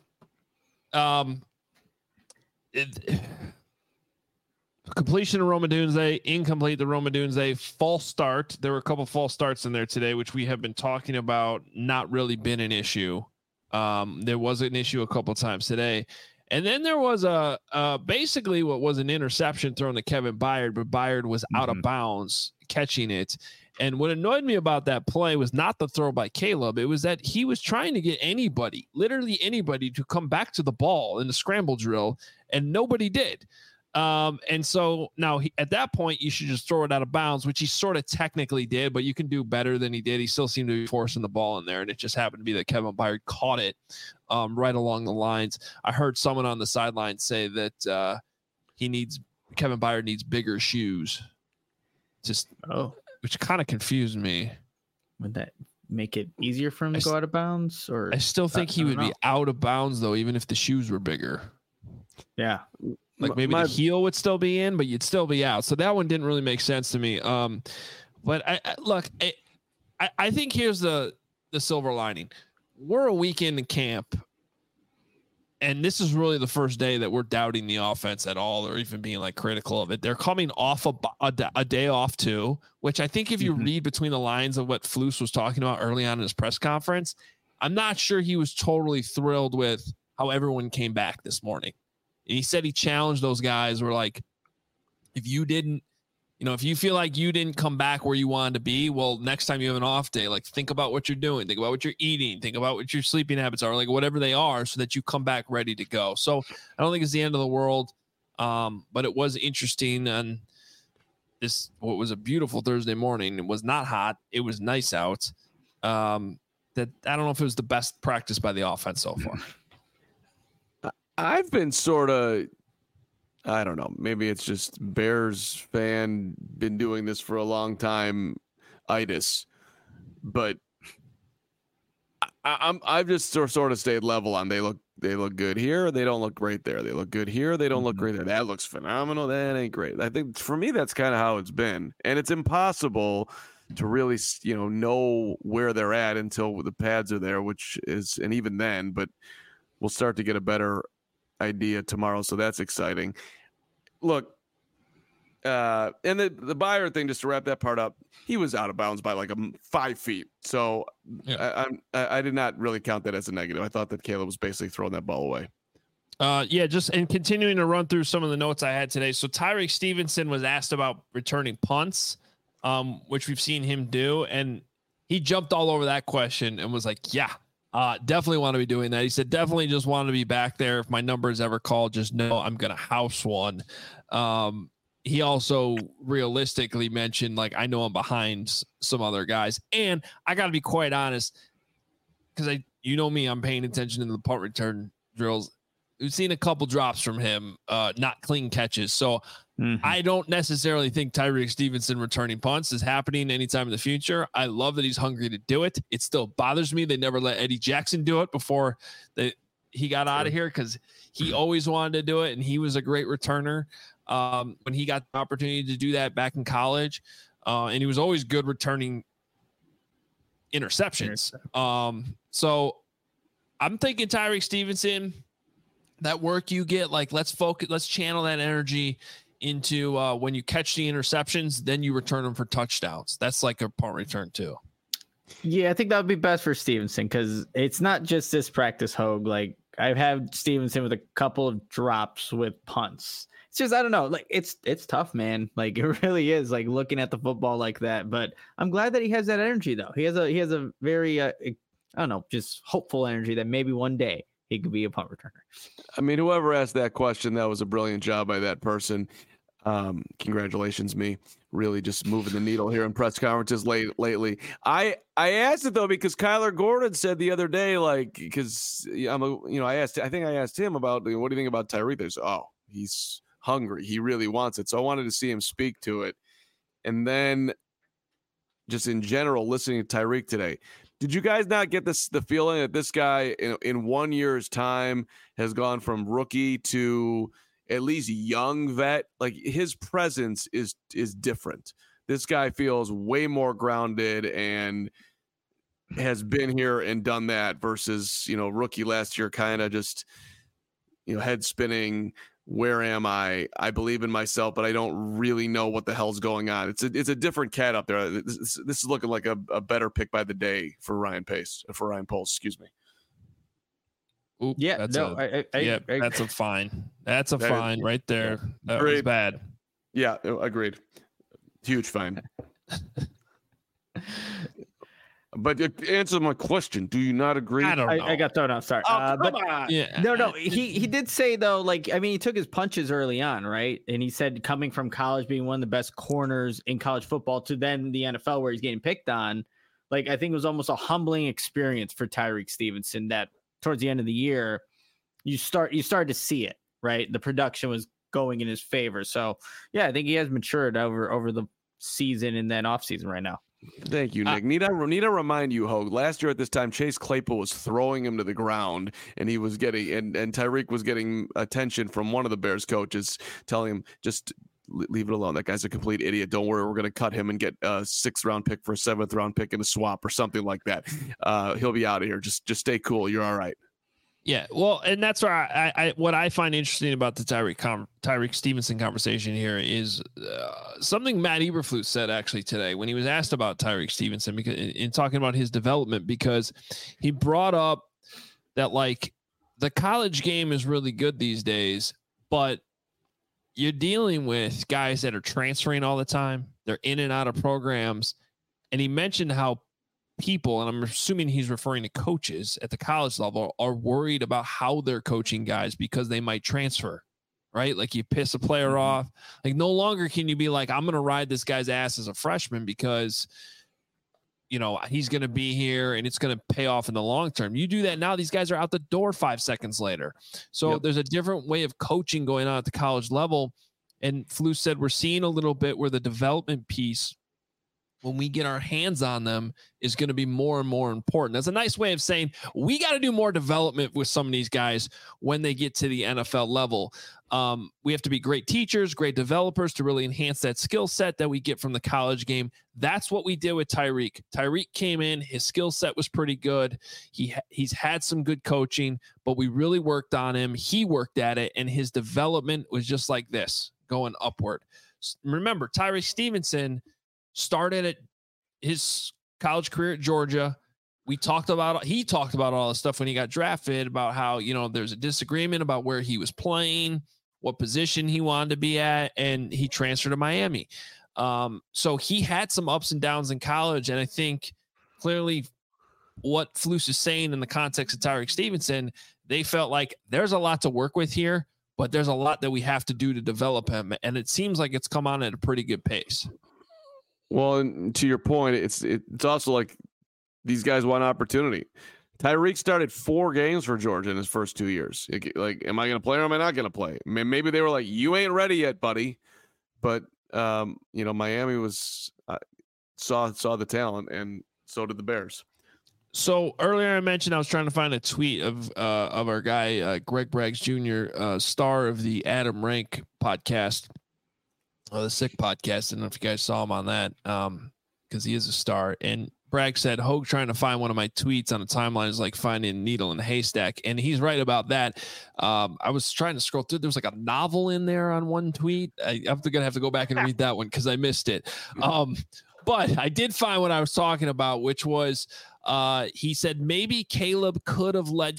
completion of Rome Odunze, incomplete to Rome Odunze, false start. There were a couple false starts in there today, which we have been talking about, not really been an issue. There was an issue a couple times today. And then there was basically what was an interception thrown to Kevin Byard, but Byard was out of bounds catching it. And what annoyed me about that play was not the throw by Caleb. It was that he was trying to get anybody, literally anybody, to come back to the ball in the scramble drill, and nobody did. And so now at that point, you should just throw it out of bounds, which he sort of technically did, but you can do better than he did. He still seemed to be forcing the ball in there, and it just happened to be that Kevin Byard caught it right along the lines. I heard someone on the sideline say that Kevin Byard needs bigger shoes. Which kind of confused me. Would that make it easier for him to go out of bounds? Or I still think he would be out of bounds, though, even if the shoes were bigger. Yeah. Like maybe the heel would still be in, but you'd still be out. So that one didn't really make sense to me. But I think here's the silver lining. We're a weekend in camp, and this is really the first day that we're doubting the offense at all, or even being like critical of it. They're coming off a day off too, which I think if you read between the lines of what Flus was talking about early on in his press conference, I'm not sure he was totally thrilled with how everyone came back this morning. And he said he challenged those guys. Were like, if you feel like you didn't come back where you wanted to be, well, next time you have an off day, like, think about what you're doing, think about what you're eating, think about what your sleeping habits are, like whatever they are, so that you come back ready to go. So I don't think it's the end of the world. But it was interesting on what was a beautiful Thursday morning. It was not hot. It was nice out. That I don't know if it was the best practice by the offense so far. I've been sort of, I don't know, maybe it's just Bears fan, been doing this for a long time, itis, but I've just sort of stayed level on they look good here, they don't look great there. They look good here, they don't look great there. That looks phenomenal, that ain't great. I think for me that's kind of how it's been, and it's impossible to really know where they're at until the pads are there, which is, and even then, but we'll start to get a better idea tomorrow, so that's exciting. Look, and the Byard thing, just to wrap that part up, he was out of bounds by like 5 feet, so yeah. I did not really count that as a negative. I thought that Caleb was basically throwing that ball away. Just and continuing to run through some of the notes I had today. So Tyrique Stevenson was asked about returning punts, which we've seen him do, and he jumped all over that question and was like, yeah, definitely want to be doing that. He said, definitely just want to be back there. If my number is ever called, just know I'm going to house one. He also realistically mentioned, like, I know I'm behind some other guys, and I got to be quite honest, because you know me, I'm paying attention to the punt return drills. We've seen a couple drops from him, not clean catches. So I don't necessarily think Tyrique Stevenson returning punts is happening anytime in the future. I love that he's hungry to do it. It still bothers me they never let Eddie Jackson do it before he got out of here, because he always wanted to do it, and he was a great returner when he got the opportunity to do that back in college. And he was always good returning interceptions. So I'm thinking Tyrique Stevenson, that work you get, like, let's channel that energy into when you catch the interceptions, then you return them for touchdowns. That's like a punt return too. Yeah, I think that would be best for Stevenson, because it's not just this practice, Hogue. Like, I've had Stevenson with a couple of drops with punts. It's just, I don't know, like, it's tough, man. Like, it really is, like, looking at the football like that. But I'm glad that he has that energy, though. He has a very I don't know, just hopeful energy that maybe one day he could be a punt returner. I mean, whoever asked that question, that was a brilliant job by that person. Congratulations, me. Really just moving the needle here in press conferences lately. I asked it though because Kyler Gordon said the other day, like, because I think I asked him about, what do you think about Tyreek? There's he's hungry. He really wants it. So I wanted to see him speak to it. And then just in general, listening to Tyreek today, did you guys not get the feeling that this guy in 1 year's time has gone from rookie to at least young vet? Like, his presence is different. This guy feels way more grounded and has been here and done that versus, rookie last year, kind of just, head spinning. Where am I? I believe in myself, but I don't really know what the hell's going on. It's a different cat up there. This is looking like a better pick by the day for Ryan Poles. Excuse me. Ooh, yeah, that's that's a fine. That's a fine right there. That was bad. Yeah, agreed. Huge fine. But answer my question. Do you not agree? I don't know. I got thrown out. Sorry. No. He did say though, he took his punches early on, right? And he said coming from college, being one of the best corners in college football, to then the NFL where he's getting picked on, I think it was almost a humbling experience for Tyreek Stevenson. That towards the end of the year, you started to see it, right? The production was going in his favor. So yeah, I think he has matured over the season and then off season right now. Thank you, Nick. Need I remind you, Hogue, last year at this time, Chase Claypool was throwing him to the ground, and he was getting and Tyreek was getting attention from one of the Bears coaches, telling him, just leave it alone. That guy's a complete idiot. Don't worry, we're going to cut him and get a 6th round pick for a 7th round pick in a swap or something like that. He'll be out of here. Just stay cool. You're all right. Yeah, well, and that's where I what I find interesting about the Tyreek Stevenson conversation here is something Matt Eberflus said actually today when he was asked about Tyreek Stevenson, because in talking about his development, because he brought up that the college game is really good these days, but you're dealing with guys that are transferring all the time. They're in and out of programs, and he mentioned how people, and I'm assuming he's referring to coaches at the college level, are worried about how they're coaching guys because they might transfer, right? Like, you piss a player off. No longer can you be like, I'm going to ride this guy's ass as a freshman because, he's going to be here and it's going to pay off in the long term. You do that now, these guys are out the door 5 seconds later. So There's a different way of coaching going on at the college level. And Flus said we're seeing a little bit where the development piece, when we get our hands on them, is going to be more and more important. That's a nice way of saying we got to do more development with some of these guys when they get to the NFL level. We have to be great teachers, great developers to really enhance that skill set that we get from the college game. That's what we did with Tyreek. Tyreek came in, his skill set was pretty good. He's had some good coaching, but we really worked on him. He worked at it, and his development was just like this, going upward. Remember, Tyreek Stevenson started at his college career at Georgia. He talked about all this stuff when he got drafted, about how, there's a disagreement about where he was playing, what position he wanted to be at, and he transferred to Miami. So he had some ups and downs in college, and I think clearly what Flus is saying in the context of Tyreek Stevenson, they felt like there's a lot to work with here, but there's a lot that we have to do to develop him, and it seems like it's come on at a pretty good pace. Well, and to your point, it's also like these guys want opportunity. Tyreek started 4 games for Georgia in his first 2 years. Am I going to play or am I not going to play? Maybe they were like, you ain't ready yet, buddy. But, Miami was saw the talent, and so did the Bears. So earlier I mentioned I was trying to find a tweet of our guy, Greg Braggs Jr., star of the Adam Rank podcast. The Sick podcast. I don't know if you guys saw him on that, because he is a star. And Bragg said, Hogue trying to find one of my tweets on a timeline is like finding a needle in a haystack. And he's right about that. I was trying to scroll through. There was like a novel in there on one tweet. I'm going to have to go back and read that one because I missed it. But I did find what I was talking about, which was he said maybe Caleb could have led.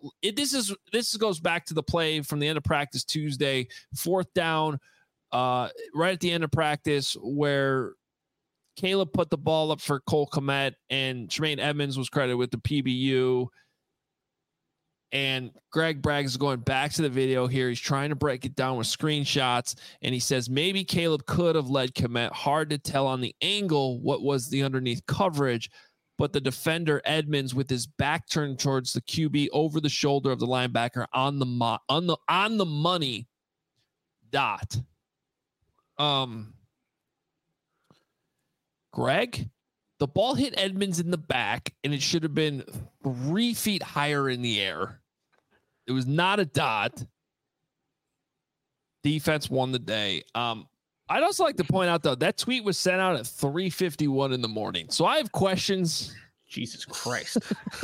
This goes back to the play from the end of practice Tuesday, 4th down, right at the end of practice, where Caleb put the ball up for Cole Kmet and Tremaine Edmonds was credited with the PBU. And Greg Bragg is going back to the video here. He's trying to break it down with screenshots. And he says, maybe Caleb could have led Kmet. Hard to tell on the angle what was the underneath coverage. But the defender, Edmonds, with his back turned towards the QB over the shoulder of the linebacker on the money dot. Greg, the ball hit Edmonds in the back, and it should have been 3 feet higher in the air. It was not a dot. Defense won the day. I'd also like to point out, though, that tweet was sent out at 3:51 in the morning. So I have questions. Jesus Christ.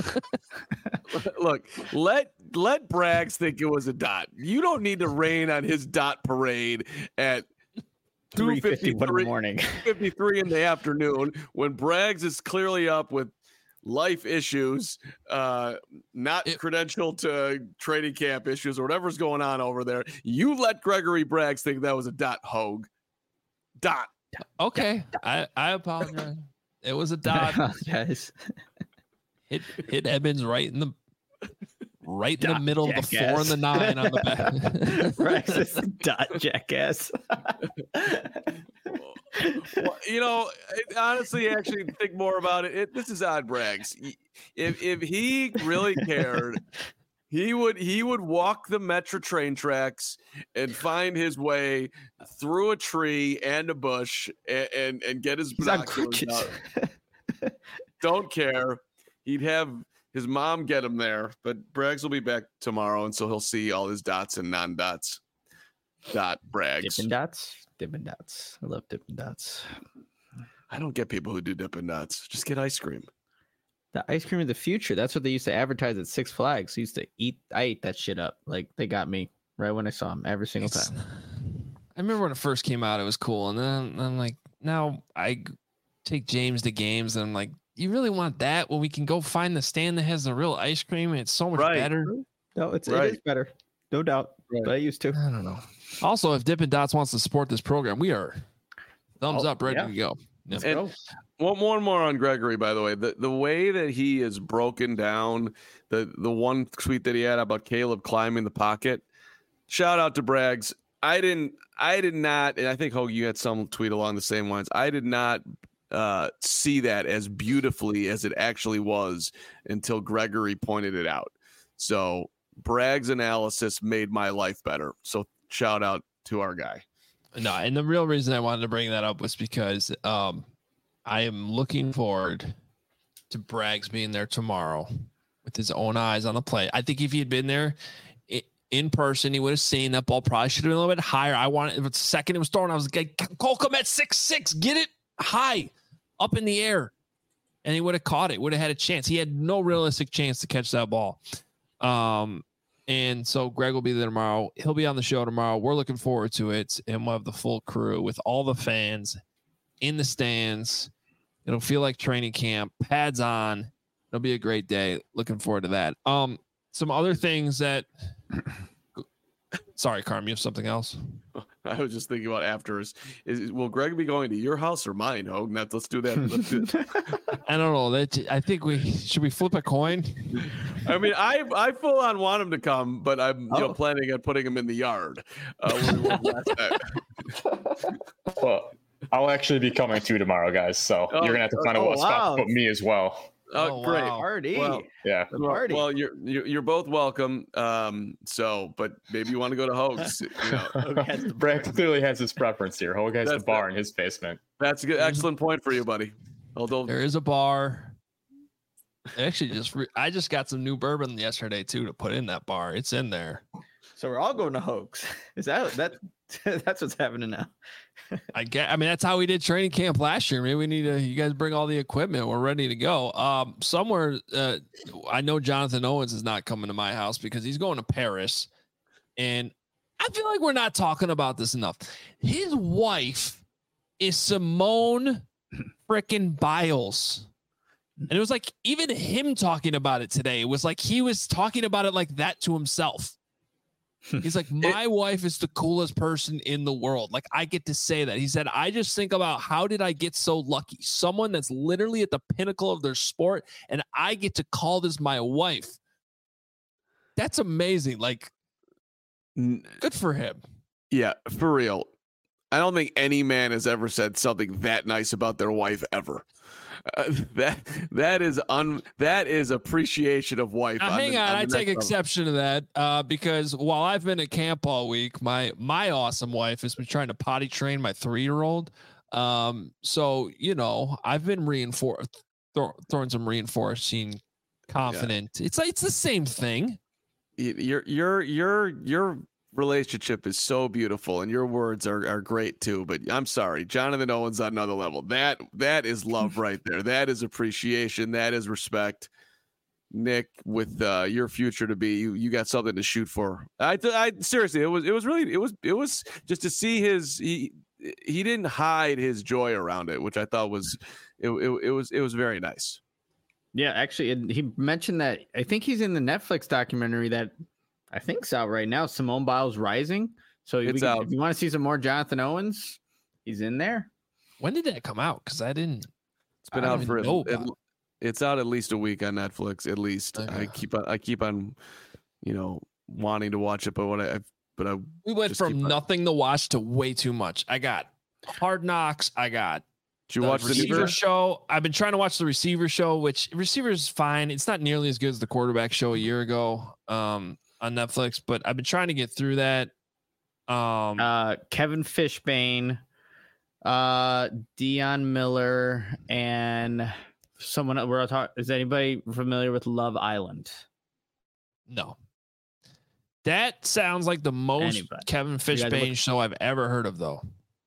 Look, let Braggs think it was a dot. You don't need to rain on his dot parade at 3:51 in the morning. 53 in the afternoon when Braggs is clearly up with life issues, not credentialed to training camp issues or whatever's going on over there. You let Gregory Braggs think that was a dot, Hogue. Dot. Okay. I apologize. It was a dot. Guys. Hit Edmonds right in the middle of the 4 and the 9 on the back. Braggs is a dot, jackass. Well, honestly, actually think more about it. This is odd, Braggs. If he really cared, he would walk the Metro train tracks and find his way through a tree and a bush and get his binoculars out. Don't care. He'd have his mom get him there, but Braggs will be back tomorrow, and so he'll see all his dots and non-dots. Dot Braggs. Dippin' Dots. I love Dippin' Dots. I don't get people who do Dippin' Dots. Just get ice cream. The ice cream of the future. That's what they used to advertise at Six Flags. I ate that shit up. Like, they got me right when I saw them every single time. I remember when it first came out, it was cool. And then I'm like, now I take James to games and I'm like, you really want that when we can go find the stand that has the real ice cream? And it's so much better. No, it is better. No doubt. Right. But I used to. I don't know. Also, if Dippin' Dots wants to support this program, we are thumbs up, ready to go. Yep. And one more on Gregory, by the way. The way that he is broken down, the one tweet that he had about Caleb climbing the pocket. Shout out to Braggs. I did not, and I think Hogue, you had some tweet along the same lines. I did not see that as beautifully as it actually was until Gregory pointed it out. So Braggs' analysis made my life better. So shout out to our guy. No, and the real reason I wanted to bring that up was because I am looking forward to Braggs being there tomorrow with his own eyes on the play. I think if he had been there in person, he would have seen that ball probably should have been a little bit higher. I wanted, if it's the second it was thrown, I was like, Cole Kmet 6'6", get it high up in the air. And he would have caught it, would have had a chance. He had no realistic chance to catch that ball. And so Greg will be there tomorrow. He'll be on the show tomorrow. We're looking forward to it. And we'll have the full crew with all the fans in the stands. It'll feel like training camp, pads on. It'll be a great day. Looking forward to that. Some other things that, sorry, Carm, you have something else? I was just thinking about after will Greg be going to your house or mine, Hogue? Let's do that. I don't know. I think should we flip a coin? I mean, I full on want him to come, but I'm planning on putting him in the yard. Well, I'll actually be coming to tomorrow, guys. So you're gonna have to find a spot to put me as well. Oh, great party! Well, yeah, party. Well, you're both welcome. But maybe you want to go to Hogue's. Brad clearly has his preference here. Hogue has the bar in his basement. That's a good, excellent point for you, buddy. Although there is a bar. Actually, I just got some new bourbon yesterday too to put in that bar. It's in there. So we're all going to Hogue's. Is that that's what's happening now? I mean, that's how we did training camp last year. Maybe we need to, you guys bring all the equipment. We're ready to go. Somewhere, I know Jonathan Owens is not coming to my house because he's going to Paris. And I feel like we're not talking about this enough. His wife is Simone freaking Biles. And it was like, even him talking about it today, it was like he was talking about it like that to himself. He's like, my wife is the coolest person in the world. Like, I get to say that. He said, I just think about how did I get so lucky? Someone that's literally at the pinnacle of their sport, and I get to call this my wife. That's amazing. Like, good for him. Yeah, for real. I don't think any man has ever said something that nice about their wife ever. That is appreciation of wife. Hang on, I take exception to that because while I've been at camp all week, my awesome wife has been trying to potty train my 3-year-old. So I've been throwing some reinforcing confident. Yeah. It's the same thing. Your relationship is so beautiful, and your words are great too. But I'm sorry, Jonathan Owens on another level. That is love right there. That is appreciation. That is respect. Nick, with your future to be, you got something to shoot for. I seriously, it was just to see he didn't hide his joy around it, which I thought was it was very nice. Yeah, actually, he mentioned that I think he's in the Netflix documentary that I think's out right now. Simone Biles Rising. So if you want to see some more Jonathan Owens, he's in there. When did that come out? Because I didn't. It's been out for it's out at least a week on Netflix. At least I keep on, wanting to watch it, but we went from nothing to watch to way too much. I got Hard Knocks. Did you watch the Receiver show? I've been trying to watch the Receiver show, which Receiver is fine. It's not nearly as good as the Quarterback show a year ago on Netflix, but I've been trying to get through that. Kevin Fishbane, Dion Miller, and someone is anybody familiar with Love Island? No. That sounds like the most Kevin Fishbane show I've ever heard of, though.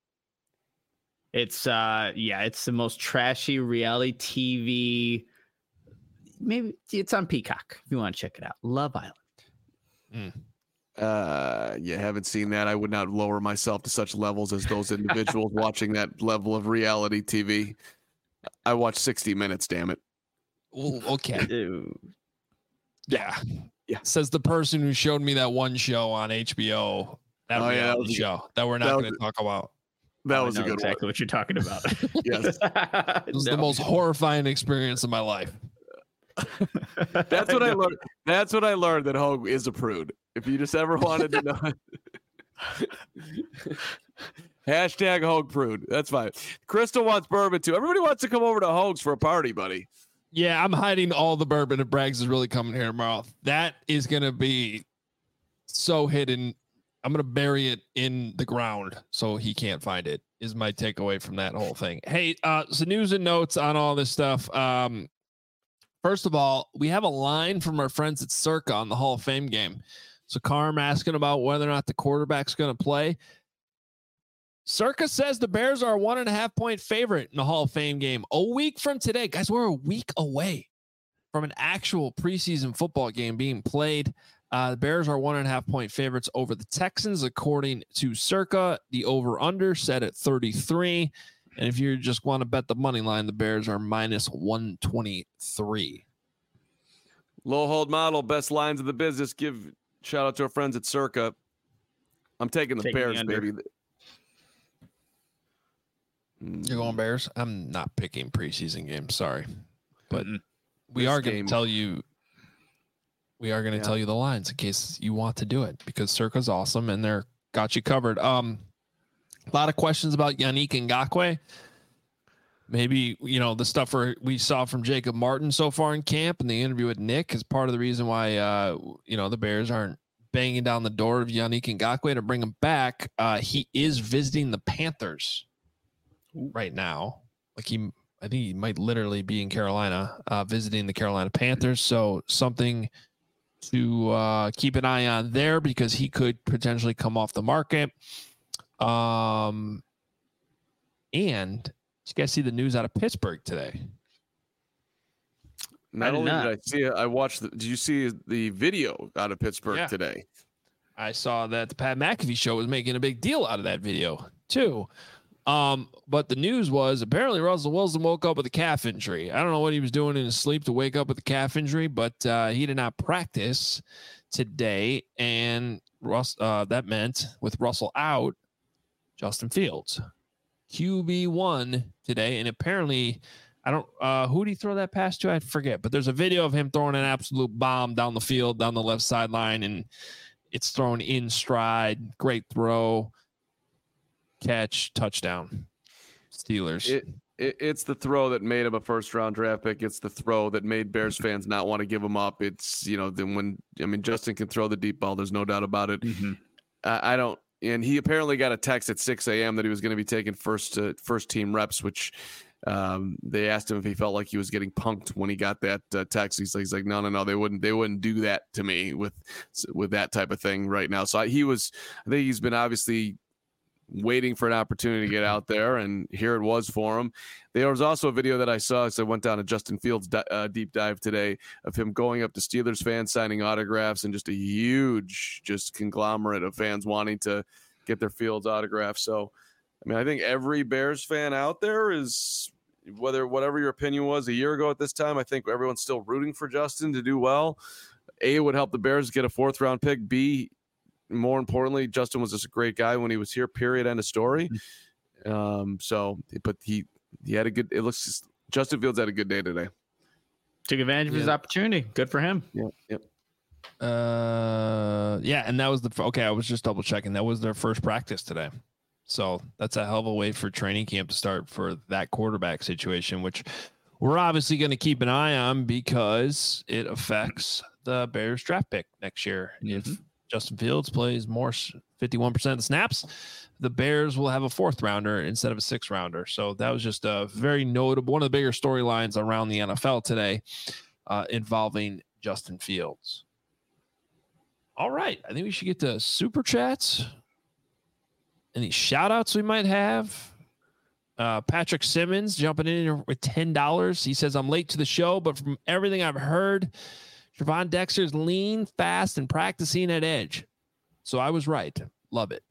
It's it's the most trashy reality TV. Maybe it's on Peacock if you want to check it out. Love Island. You haven't seen that. I would not lower myself to such levels as those individuals watching that level of reality TV. I watch 60 Minutes, damn it. Well, okay. Yeah. Says the person who showed me that one show on HBO. That reality show that we're not going to talk about. That was a good exactly one. What you're talking about. Yes. It was the most horrifying experience of my life. That's what I learned. That's what I learned, that Hogue is a prude. If you just ever wanted to know. Hashtag Hogue prude. That's fine. Crystal wants bourbon too. Everybody wants to come over to Hogue's for a party, buddy. Yeah, I'm hiding all the bourbon if Braggs is really coming here tomorrow. That is going to be so hidden. I'm going to bury it in the ground so he can't find it, is my takeaway from that whole thing. Hey, so news and notes on all this stuff. First of all, we have a line from our friends at Circa on the Hall of Fame game. So Carm asking about whether or not the quarterback's going to play. Circa says the Bears are a 1.5-point favorite in the Hall of Fame game. A week from today, guys, we're a week away from an actual preseason football game being played. The Bears are 1.5-point favorites over the Texans, according to Circa. The over-under set at 33. And if you just want to bet the money line, the Bears are minus 123. Low hold model, best lines of the business. Give shout out to our friends at Circa. I'm taking the Bears, baby. You're going Bears? I'm not picking preseason games. Sorry. But we are going to tell you. We are going to tell you the lines in case you want to do it, because Circa's awesome and they're got you covered. A lot of questions about Yannick Ngakoue. Maybe, the stuff we saw from Jacob Martin so far in camp and the interview with Nick is part of the reason why, the Bears aren't banging down the door of Yannick Ngakoue to bring him back. He is visiting the Panthers right now. I think he might literally be in Carolina, visiting the Carolina Panthers. So something to keep an eye on there, because he could potentially come off the market. And did you guys see the news out of Pittsburgh today? Not only did I see it, I watched. Did you see the video out of Pittsburgh today? I saw that the Pat McAfee show was making a big deal out of that video too. But the news was apparently Russell Wilson woke up with a calf injury. I don't know what he was doing in his sleep to wake up with a calf injury, but he did not practice today. And that meant with Russell out, Justin Fields, QB1 today. And apparently I don't, who did he throw that pass to? I forget, but there's a video of him throwing an absolute bomb down the field, down the left sideline, and it's thrown in stride. Great throw, catch, touchdown. Steelers. It's the throw that made him a first-round draft pick. It's the throw that made Bears fans not want to give him up. It's, then Justin can throw the deep ball. There's no doubt about it. Mm-hmm. And he apparently got a text at 6 a.m. that he was going to be taking first team reps, which they asked him if he felt like he was getting punked when he got that text. He's like, no, they wouldn't do that to me with that type of thing right now. So I think he's been obviously waiting for an opportunity to get out there, and here it was for him. There was also a video that I saw, so I went down to Justin Fields' deep dive today of him going up to Steelers fans, signing autographs, and just a huge conglomerate of fans wanting to get their Fields autograph. So, I think every Bears fan out there is, whatever your opinion was a year ago at this time, I think everyone's still rooting for Justin to do well. A, it would help the Bears get a 4th round pick. B, more importantly, Justin was just a great guy when he was here, period, end of story. But he had Justin Fields had a good day today. Took advantage of his opportunity. Good for him. Yep. And that was I was just double checking. That was their first practice today. So that's a hell of a way for training camp to start for that quarterback situation, which we're obviously going to keep an eye on because it affects the Bears draft pick next year. Mm-hmm. If Justin Fields plays more 51% of the snaps, the Bears will have a 4th rounder instead of a 6th rounder. So that was just a very notable, one of the bigger storylines around the NFL today involving Justin Fields. All right. I think we should get to super chats. Any shout outs we might have? Patrick Simmons jumping in with $10. He says, I'm late to the show, but from everything I've heard, Trevon Dexter's lean, fast, and practicing at edge. So I was right. Love it.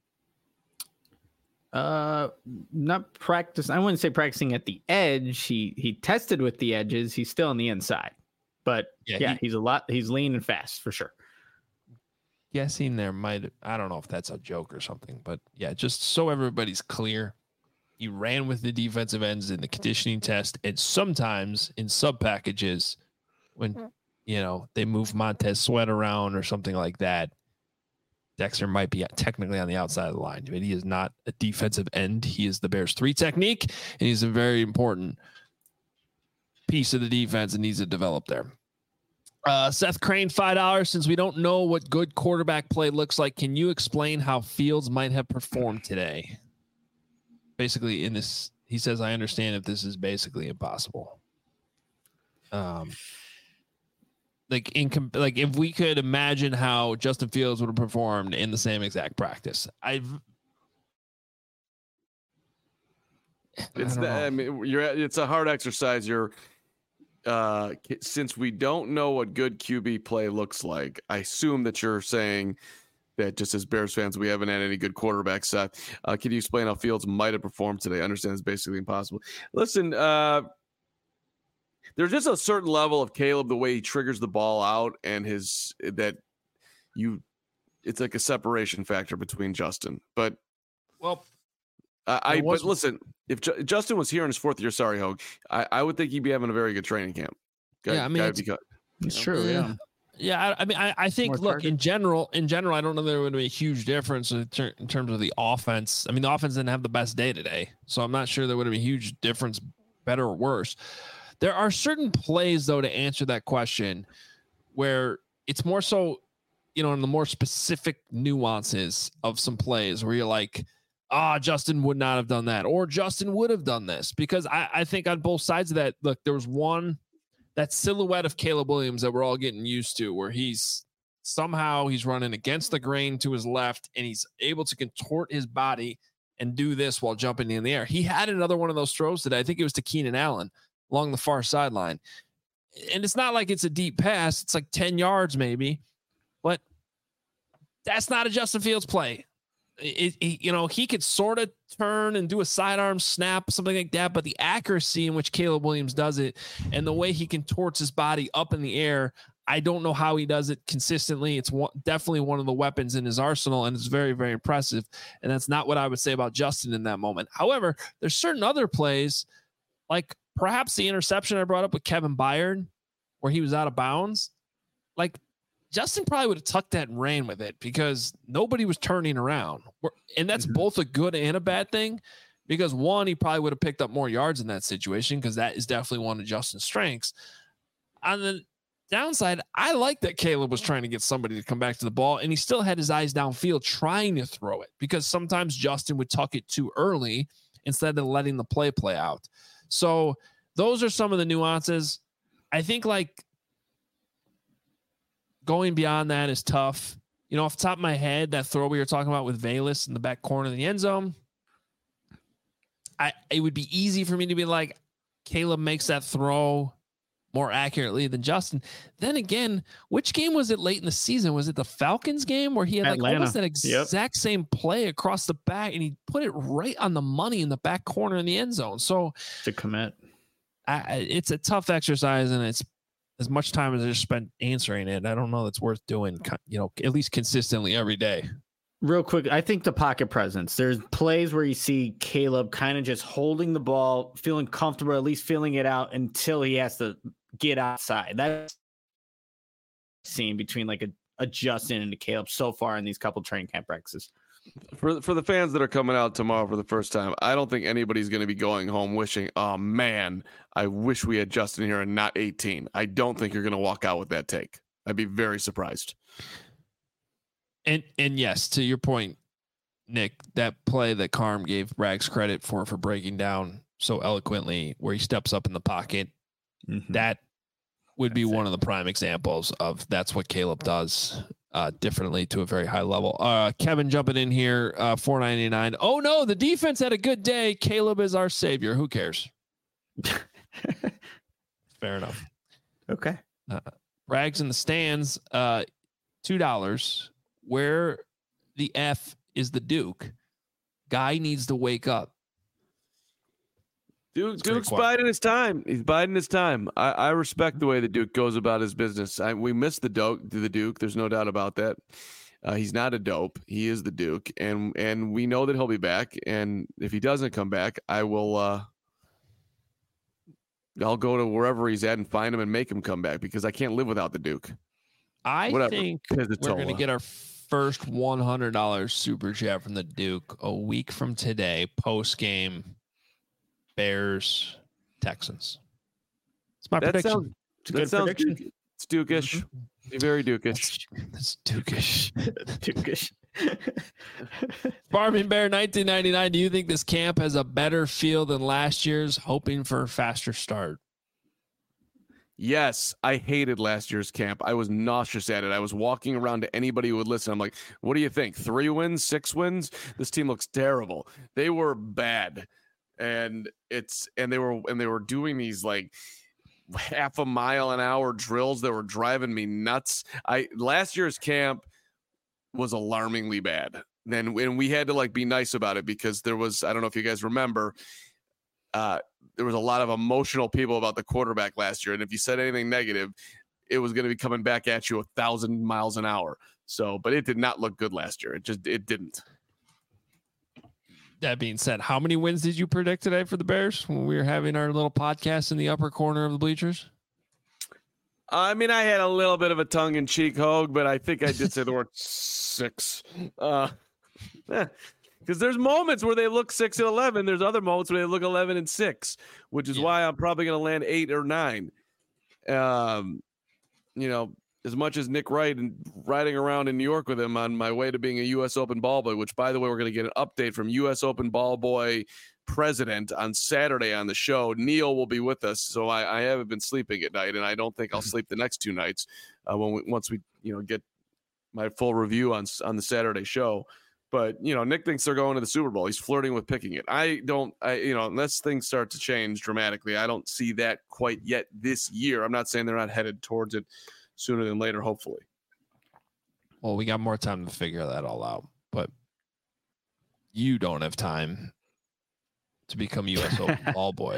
Not practice. I wouldn't say practicing at the edge. He tested with the edges. He's still on the inside, but he's lean and fast for sure. Guessing I don't know if that's a joke or something, but yeah, just so everybody's clear. He ran with the defensive ends in the conditioning test, and sometimes in sub packages when they move Montez Sweat around or something like that, Dexter might be technically on the outside of the line, but he is not a defensive end. He is the Bears 3 technique, and he's a very important piece of the defense and needs to develop there. Seth Crane, $5. Since we don't know what good quarterback play looks like, can you explain how Fields might have performed today? Basically, in this, he says, I understand if this is basically impossible. If we could imagine how Justin Fields would have performed in the same exact practice, it's a hard exercise. Since we don't know what good QB play looks like, I assume that you're saying that just as Bears fans, we haven't had any good quarterbacks. Can you explain how Fields might have performed today? I understand it's basically impossible. Listen, there's just a certain level of Caleb, the way he triggers the ball out, and it's like a separation factor between Justin. But listen, if Justin was here in his 4th year, sorry, Hogue, I would think he'd be having a very good training camp. It's true. Yeah. Yeah, I think. Look, in general, I don't know there would be a huge difference in terms of the offense. The offense didn't have the best day today, so I'm not sure there would have been a huge difference, better or worse. There are certain plays, though, to answer that question, where it's more so, in the more specific nuances of some plays where you're like, Justin would not have done that, or Justin would have done this, because I think on both sides of that, look, there was that silhouette of Caleb Williams that we're all getting used to, where he's running against the grain to his left, and he's able to contort his body and do this while jumping in the air. He had another one of those throws today. I think it was to Keenan Allen along the far sideline. And it's not like it's a deep pass. It's like 10 yards maybe, but that's not a Justin Fields play. He could sort of turn and do a sidearm snap, something like that, but the accuracy in which Caleb Williams does it and the way he contorts his body up in the air, I don't know how he does it consistently. It's definitely one of the weapons in his arsenal, and it's very, very impressive. And that's not what I would say about Justin in that moment. However, there's certain other plays, like perhaps the interception I brought up with Kevin Byard, where he was out of bounds, like Justin probably would have tucked that and ran with it because nobody was turning around. And that's both a good and a bad thing because one, he probably would have picked up more yards in that situation because that is definitely one of Justin's strengths. On the downside, I like that Caleb was trying to get somebody to come back to the ball and he still had his eyes downfield trying to throw it because sometimes Justin would tuck it too early instead of letting the play out. So those are some of the nuances. I think like going beyond that is tough. You know, off the top of my head, that throw we were talking about with Velus in the back corner of the end zone, it would be easy for me to be like, Caleb makes that throw more accurately than Justin. Then again, which game was it late in the season? Was it the Falcons game where he had like almost that exact same play across the back and he put it right on the money in the back corner in the end zone? So to commit, it's a tough exercise and it's as much time as I just spent answering it. I don't know that's worth doing, you know, at least consistently every day. Real quick, I think the pocket presence. There's plays where you see Caleb kind of just holding the ball, feeling comfortable, at least feeling it out until he has to get outside. That's seen between like a Justin and a Caleb so far in these couple training camp practices. For the fans that are coming out tomorrow for the first time, I don't think anybody's going to be going home wishing, oh man, I wish we had Justin here and not 18. I don't think you're going to walk out with that take. I'd be very surprised. And yes, to your point, Nick, that play that Carm gave Rags credit for breaking down so eloquently, where he steps up in the pocket, that would be one of the prime examples of that's what Caleb does differently to a very high level. Kevin jumping in here, $4.99. Oh no, the defense had a good day. Caleb is our savior. Who cares? Fair enough. Okay. Rags in the stands, $2. Where the F is the Duke? Guy needs to wake up. Duke's biding his time. He's biding his time. I respect the way the Duke goes about his business. We miss the Duke. There's no doubt about that. He's not a dope. He is the Duke, and we know that he'll be back. And if he doesn't come back, I'll go to wherever he's at and find him and make him come back because I can't live without the Duke. I think we're going to get our first $100 super chat from the Duke a week from today, post game. Bears, Texans. It's my prediction. It's a good prediction. It's Dukish. Very Dukish. It's Dukish. Dukish. Farming Bear 1999. Do you think this camp has a better feel than last year's? Hoping for a faster start. Yes, I hated last year's camp. I was nauseous at it. I was walking around to anybody who would listen. I'm like, what do you think? 3 wins, 6 wins? This team looks terrible. They were bad. And they were doing these like half a mile an hour drills that were driving me nuts. Last year's camp was alarmingly bad. Then when we had to like be nice about it because there was, I don't know if you guys remember, there was a lot of emotional people about the quarterback last year. And if you said anything negative, it was going to be coming back at you 1,000 miles an hour. So, but it did not look good last year. It didn't. That being said, how many wins did you predict today for the Bears when we were having our little podcast in the upper corner of the bleachers? I mean, I had a little bit of a tongue-in-cheek hogue, but I think I did say the word 6. Because there's moments where they look 6-11. There's other moments where they look 11-6, which is why I'm probably going to land 8 or 9. You know, as much as Nick Wright and riding around in New York with him on my way to being a U.S. Open ball boy, which, by the way, we're going to get an update from U.S. Open ball boy president on Saturday on the show. Neil will be with us, so I haven't been sleeping at night, and I don't think I'll sleep the next 2 nights once we get my full review on the Saturday show. But Nick thinks they're going to the Super Bowl. He's flirting with picking it. I don't. Unless things start to change dramatically, I don't see that quite yet this year. I'm not saying they're not headed towards it sooner than later, hopefully. Well, we got more time to figure that all out, but you don't have time to become U.S. Open ball boy.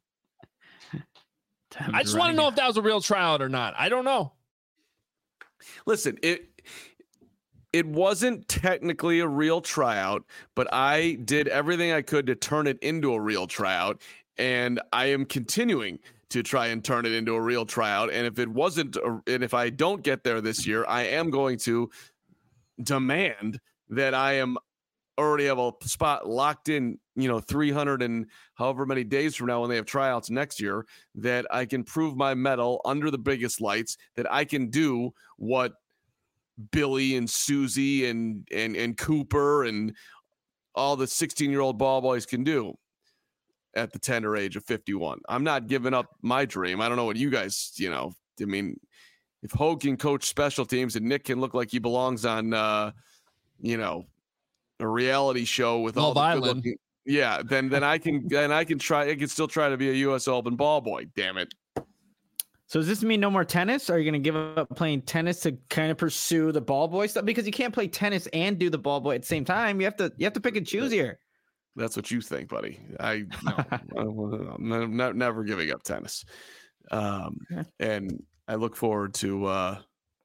I just want to know if that was a real tryout or not. I don't know. Listen, it wasn't technically a real tryout, but I did everything I could to turn it into a real tryout. and I am continuing to try and turn it into a real tryout. And if it wasn't, and if I don't get there this year, I am going to demand that I am already have a spot locked in, 300 and however many days from now when they have tryouts next year, that I can prove my mettle under the biggest lights, that I can do what Billy and Susie and Cooper and all the 16-year-old ball boys can do at the tender age of 51. I'm not giving up my dream. I don't know what you guys, I mean, if Hogue can coach special teams and Nick can look like he belongs on, a reality show with Love all the Island. then I can still try to be a U.S. Open ball boy. Damn it. So does this mean no more tennis? Are you going to give up playing tennis to kind of pursue the ball boy stuff? Because you can't play tennis and do the ball boy at the same time. You have to pick and choose here. That's what you think, buddy. I'm never giving up tennis. And I look forward to, I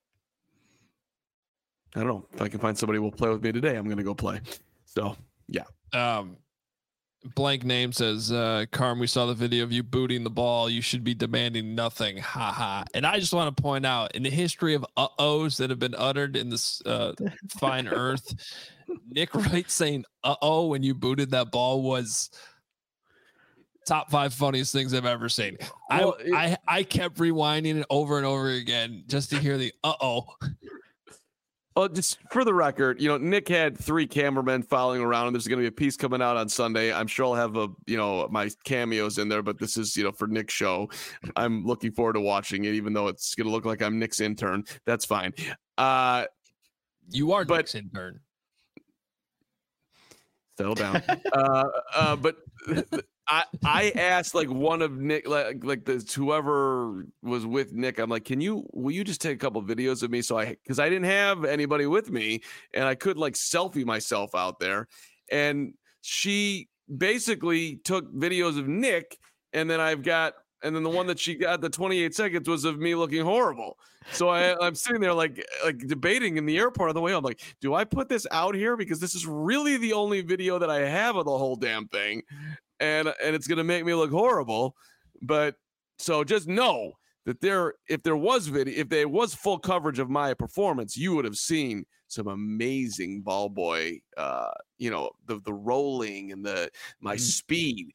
don't know, if I can find somebody who will play with me today, I'm going to go play. So, yeah. Blank name says, Carm, we saw the video of you booting the ball. You should be demanding nothing. Ha ha. And I just want to point out, in the history of uh-ohs that have been uttered in this fine earth, Nick Wright saying uh-oh when you booted that ball was top 5 funniest things I've ever seen. Well, I kept rewinding it over and over again just to hear the uh-oh. Well, just for the record, Nick had 3 cameramen following around, and there's going to be a piece coming out on Sunday. I'm sure I'll have my cameos in there, but this is, for Nick's show. I'm looking forward to watching it, even though it's going to look like I'm Nick's intern. That's fine. You are Nick's intern. Settle down. But I asked one of Nick, whoever was with Nick, I'm like, will you just take a couple of videos of me? Because I didn't have anybody with me and I could selfie myself out there. And she basically took videos of Nick, and then the one that she got, the 28 seconds, was of me looking horrible. So I'm sitting there like debating in the airport on the way home, like, do I put this out here? Because this is really the only video that I have of the whole damn thing. And it's going to make me look horrible. But so just know that if there was full coverage of my performance, you would have seen some amazing ball boy, the rolling and my speed.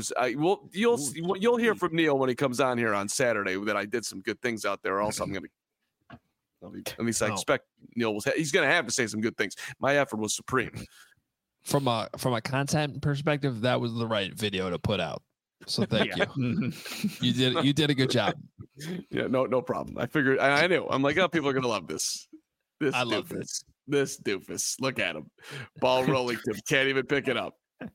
You'll hear from Neil when he comes on here on Saturday that I did some good things out there. Also, at least I expect Neil he's going to have to say some good things. My effort was supreme. From a content perspective, that was the right video to put out. So thank you. You did a good job. Yeah, no problem. I figured I knew. I'm like, people are gonna love this. I love this. This doofus. Look at him. Ball rolling to can't even pick it up.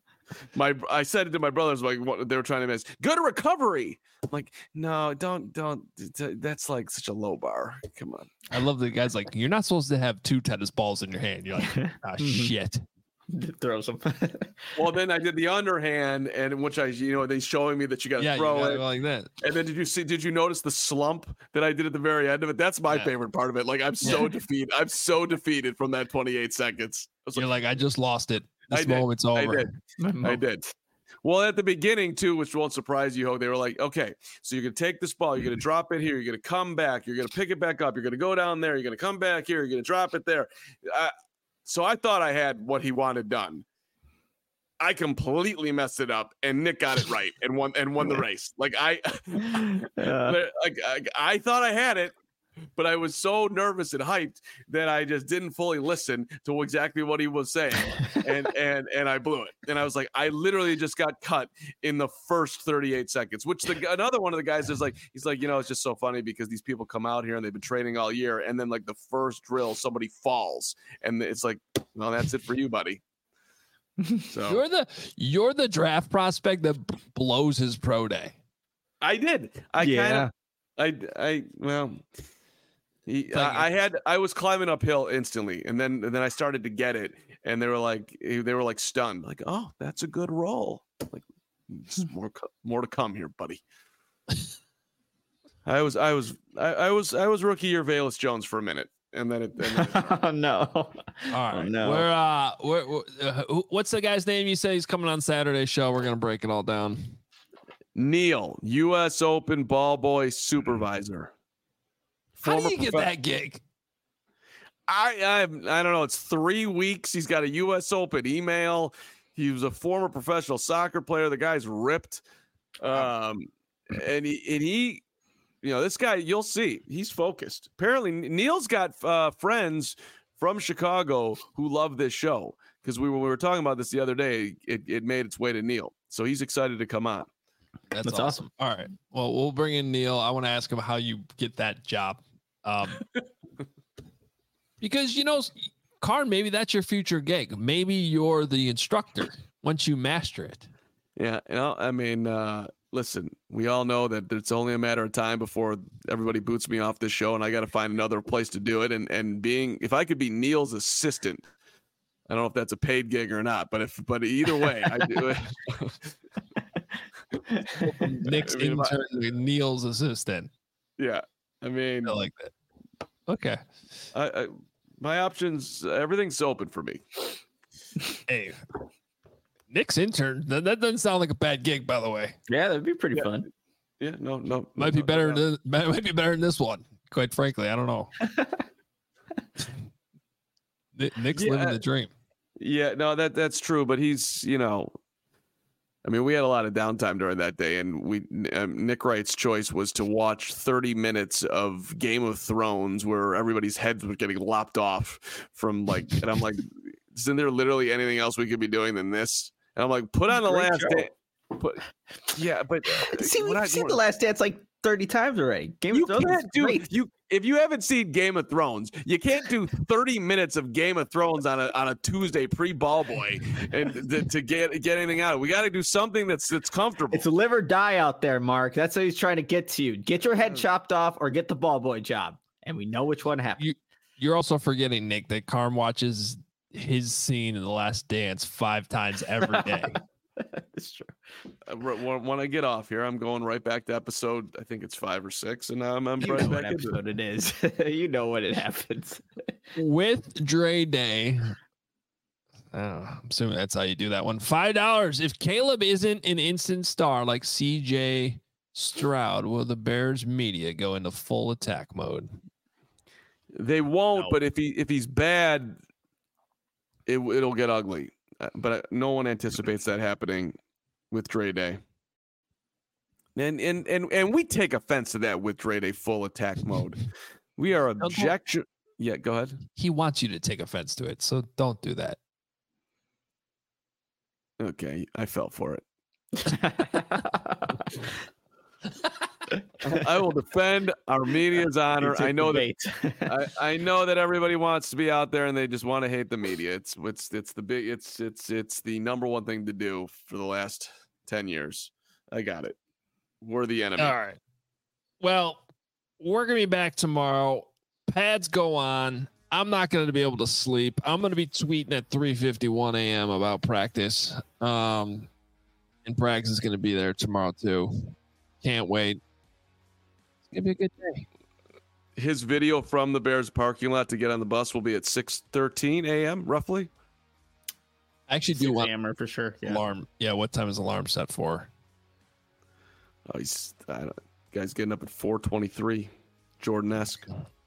I said it to my brothers, like what they were trying to miss. Good recovery. I'm like, no, don't. That's such a low bar. Come on. I love the guys like, you're not supposed to have 2 tennis balls in your hand. You're like, shit. Throw some. Well, then I did the underhand, and which they showing me that you got to throw it like that. And then did you notice the slump that I did at the very end of it? That's my favorite part of it. Like, I'm so defeated. I'm so defeated from that 28 seconds. You're like, I just lost it. This moment's over. I did. Well, at the beginning too, which won't surprise you, Hogue, they were like, okay, so you're going to take this ball, you're going to drop it here, you're going to come back, you're going to pick it back up, you're going to go down there, you're going to come back here, you're going to drop it there. So I thought I had what he wanted done. I completely messed it up, and Nick got it right and won the race. Like I thought I had it, but I was so nervous and hyped that I just didn't fully listen to exactly what he was saying, and I blew it. And I was like, I literally just got cut in the first 38 seconds. Which another one of the guys is like, he's like, it's just so funny because these people come out here and they've been training all year, and then the first drill somebody falls, and it's like, well, that's it for you, buddy. So you're the draft prospect that blows his pro day. I did. I was climbing uphill instantly, and then I started to get it, and they were like stunned, like, oh, that's a good roll. Like, more to come here, buddy. I was rookie year Velus Jones for a minute, and then it oh no. All right. Oh, no. What's the guy's name? You say he's coming on Saturday's show. We're gonna break it all down. Neil, U.S. Open ball boy supervisor. How do you get that gig? I don't know. It's 3 weeks. He's got a U.S. Open email. He was a former professional soccer player. The guy's ripped. And he, this guy, you'll see, he's focused. Apparently, Neil's got friends from Chicago who love this show because when we were talking about this the other day, it made its way to Neil. So he's excited to come on. That's awesome. All right. Well, we'll bring in Neil. I want to ask him how you get that job. Because, Karn, maybe that's your future gig. Maybe you're the instructor once you master it. Yeah. Listen, we all know that it's only a matter of time before everybody boots me off this show and I got to find another place to do it. And if I could be Neil's assistant, I don't know if that's a paid gig or not, but either way, I do it. Nick's intern, Neil's assistant. Yeah. I like that. Okay. My options, everything's open for me. Hey, Nick's intern. That doesn't sound like a bad gig, by the way. Yeah, that'd be pretty fun. Yeah, no. Might be better than this one. Quite frankly, I don't know. Nick's living the dream. Yeah, no, that's true. But he's, we had a lot of downtime during that day, and Nick Wright's choice was to watch 30 minutes of Game of Thrones where everybody's heads were getting lopped off from and I'm like, isn't there literally anything else we could be doing than this? And I'm like, put on The Last Dance. See, we've seen The Last Dance like 30 times already. Game of Thrones is great. If you haven't seen Game of Thrones, you can't do 30 minutes of Game of Thrones on a Tuesday pre-ball boy and to get anything out. We got to do something that's comfortable. It's live or die out there, Mark. That's what he's trying to get to you. Get your head chopped off or get the ball boy job, and we know which one happened. You're also forgetting, Nick, that Karm watches his scene in The Last Dance 5 times every day. That's true. When I get off here, I'm going right back to episode, I think it's 5 or 6, and I'm right back what episode it is. You know what it happens. With Dre Day, I'm assuming that's how you do that one. $5. If Caleb isn't an instant star like CJ Stroud, will the Bears media go into full attack mode? They won't, but if he's bad, it'll get ugly. But no one anticipates that happening with Dre Day. And we take offense to that with Dre Day full attack mode. We are objection. Yeah, go ahead. He wants you to take offense to it, so don't do that. Okay, I fell for it. I will defend our media's honor. I know that I know that everybody wants to be out there and they just want to hate the media. It's the number one thing to do for the last 10 years. I got it. We're the enemy. All right. Well, we're gonna be back tomorrow. Pads go on. I'm not going to be able to sleep. I'm going to be tweeting at 3:51 a.m. about practice. And Braggs is going to be there tomorrow too. Can't wait. It's going to be a good day. His video from the Bears parking lot to get on the bus will be at 6:13 a.m. roughly. I actually do want hammer for sure. Yeah. Alarm. Yeah. What time is alarm set for? Oh, guy's getting up at 4:23. Jordan-esque.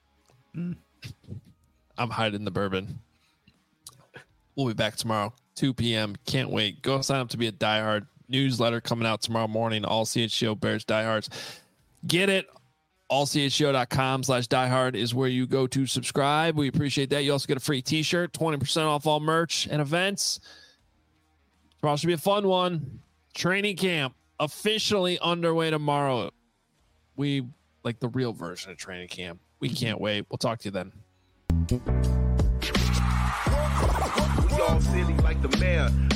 I'm hiding the bourbon. We'll be back tomorrow, 2 p.m. Can't wait. Go sign up to be a diehard. Newsletter coming out tomorrow morning. All CHGO Bears diehards. Get it. allchgo.com/diehard is where you go to subscribe. We appreciate that. You also get a free t-shirt, 20% off all merch and events. Tomorrow should be a fun one. Training camp officially underway tomorrow. We like the real version of training camp. We can't wait. We'll talk to you then. We all silly like the mayor.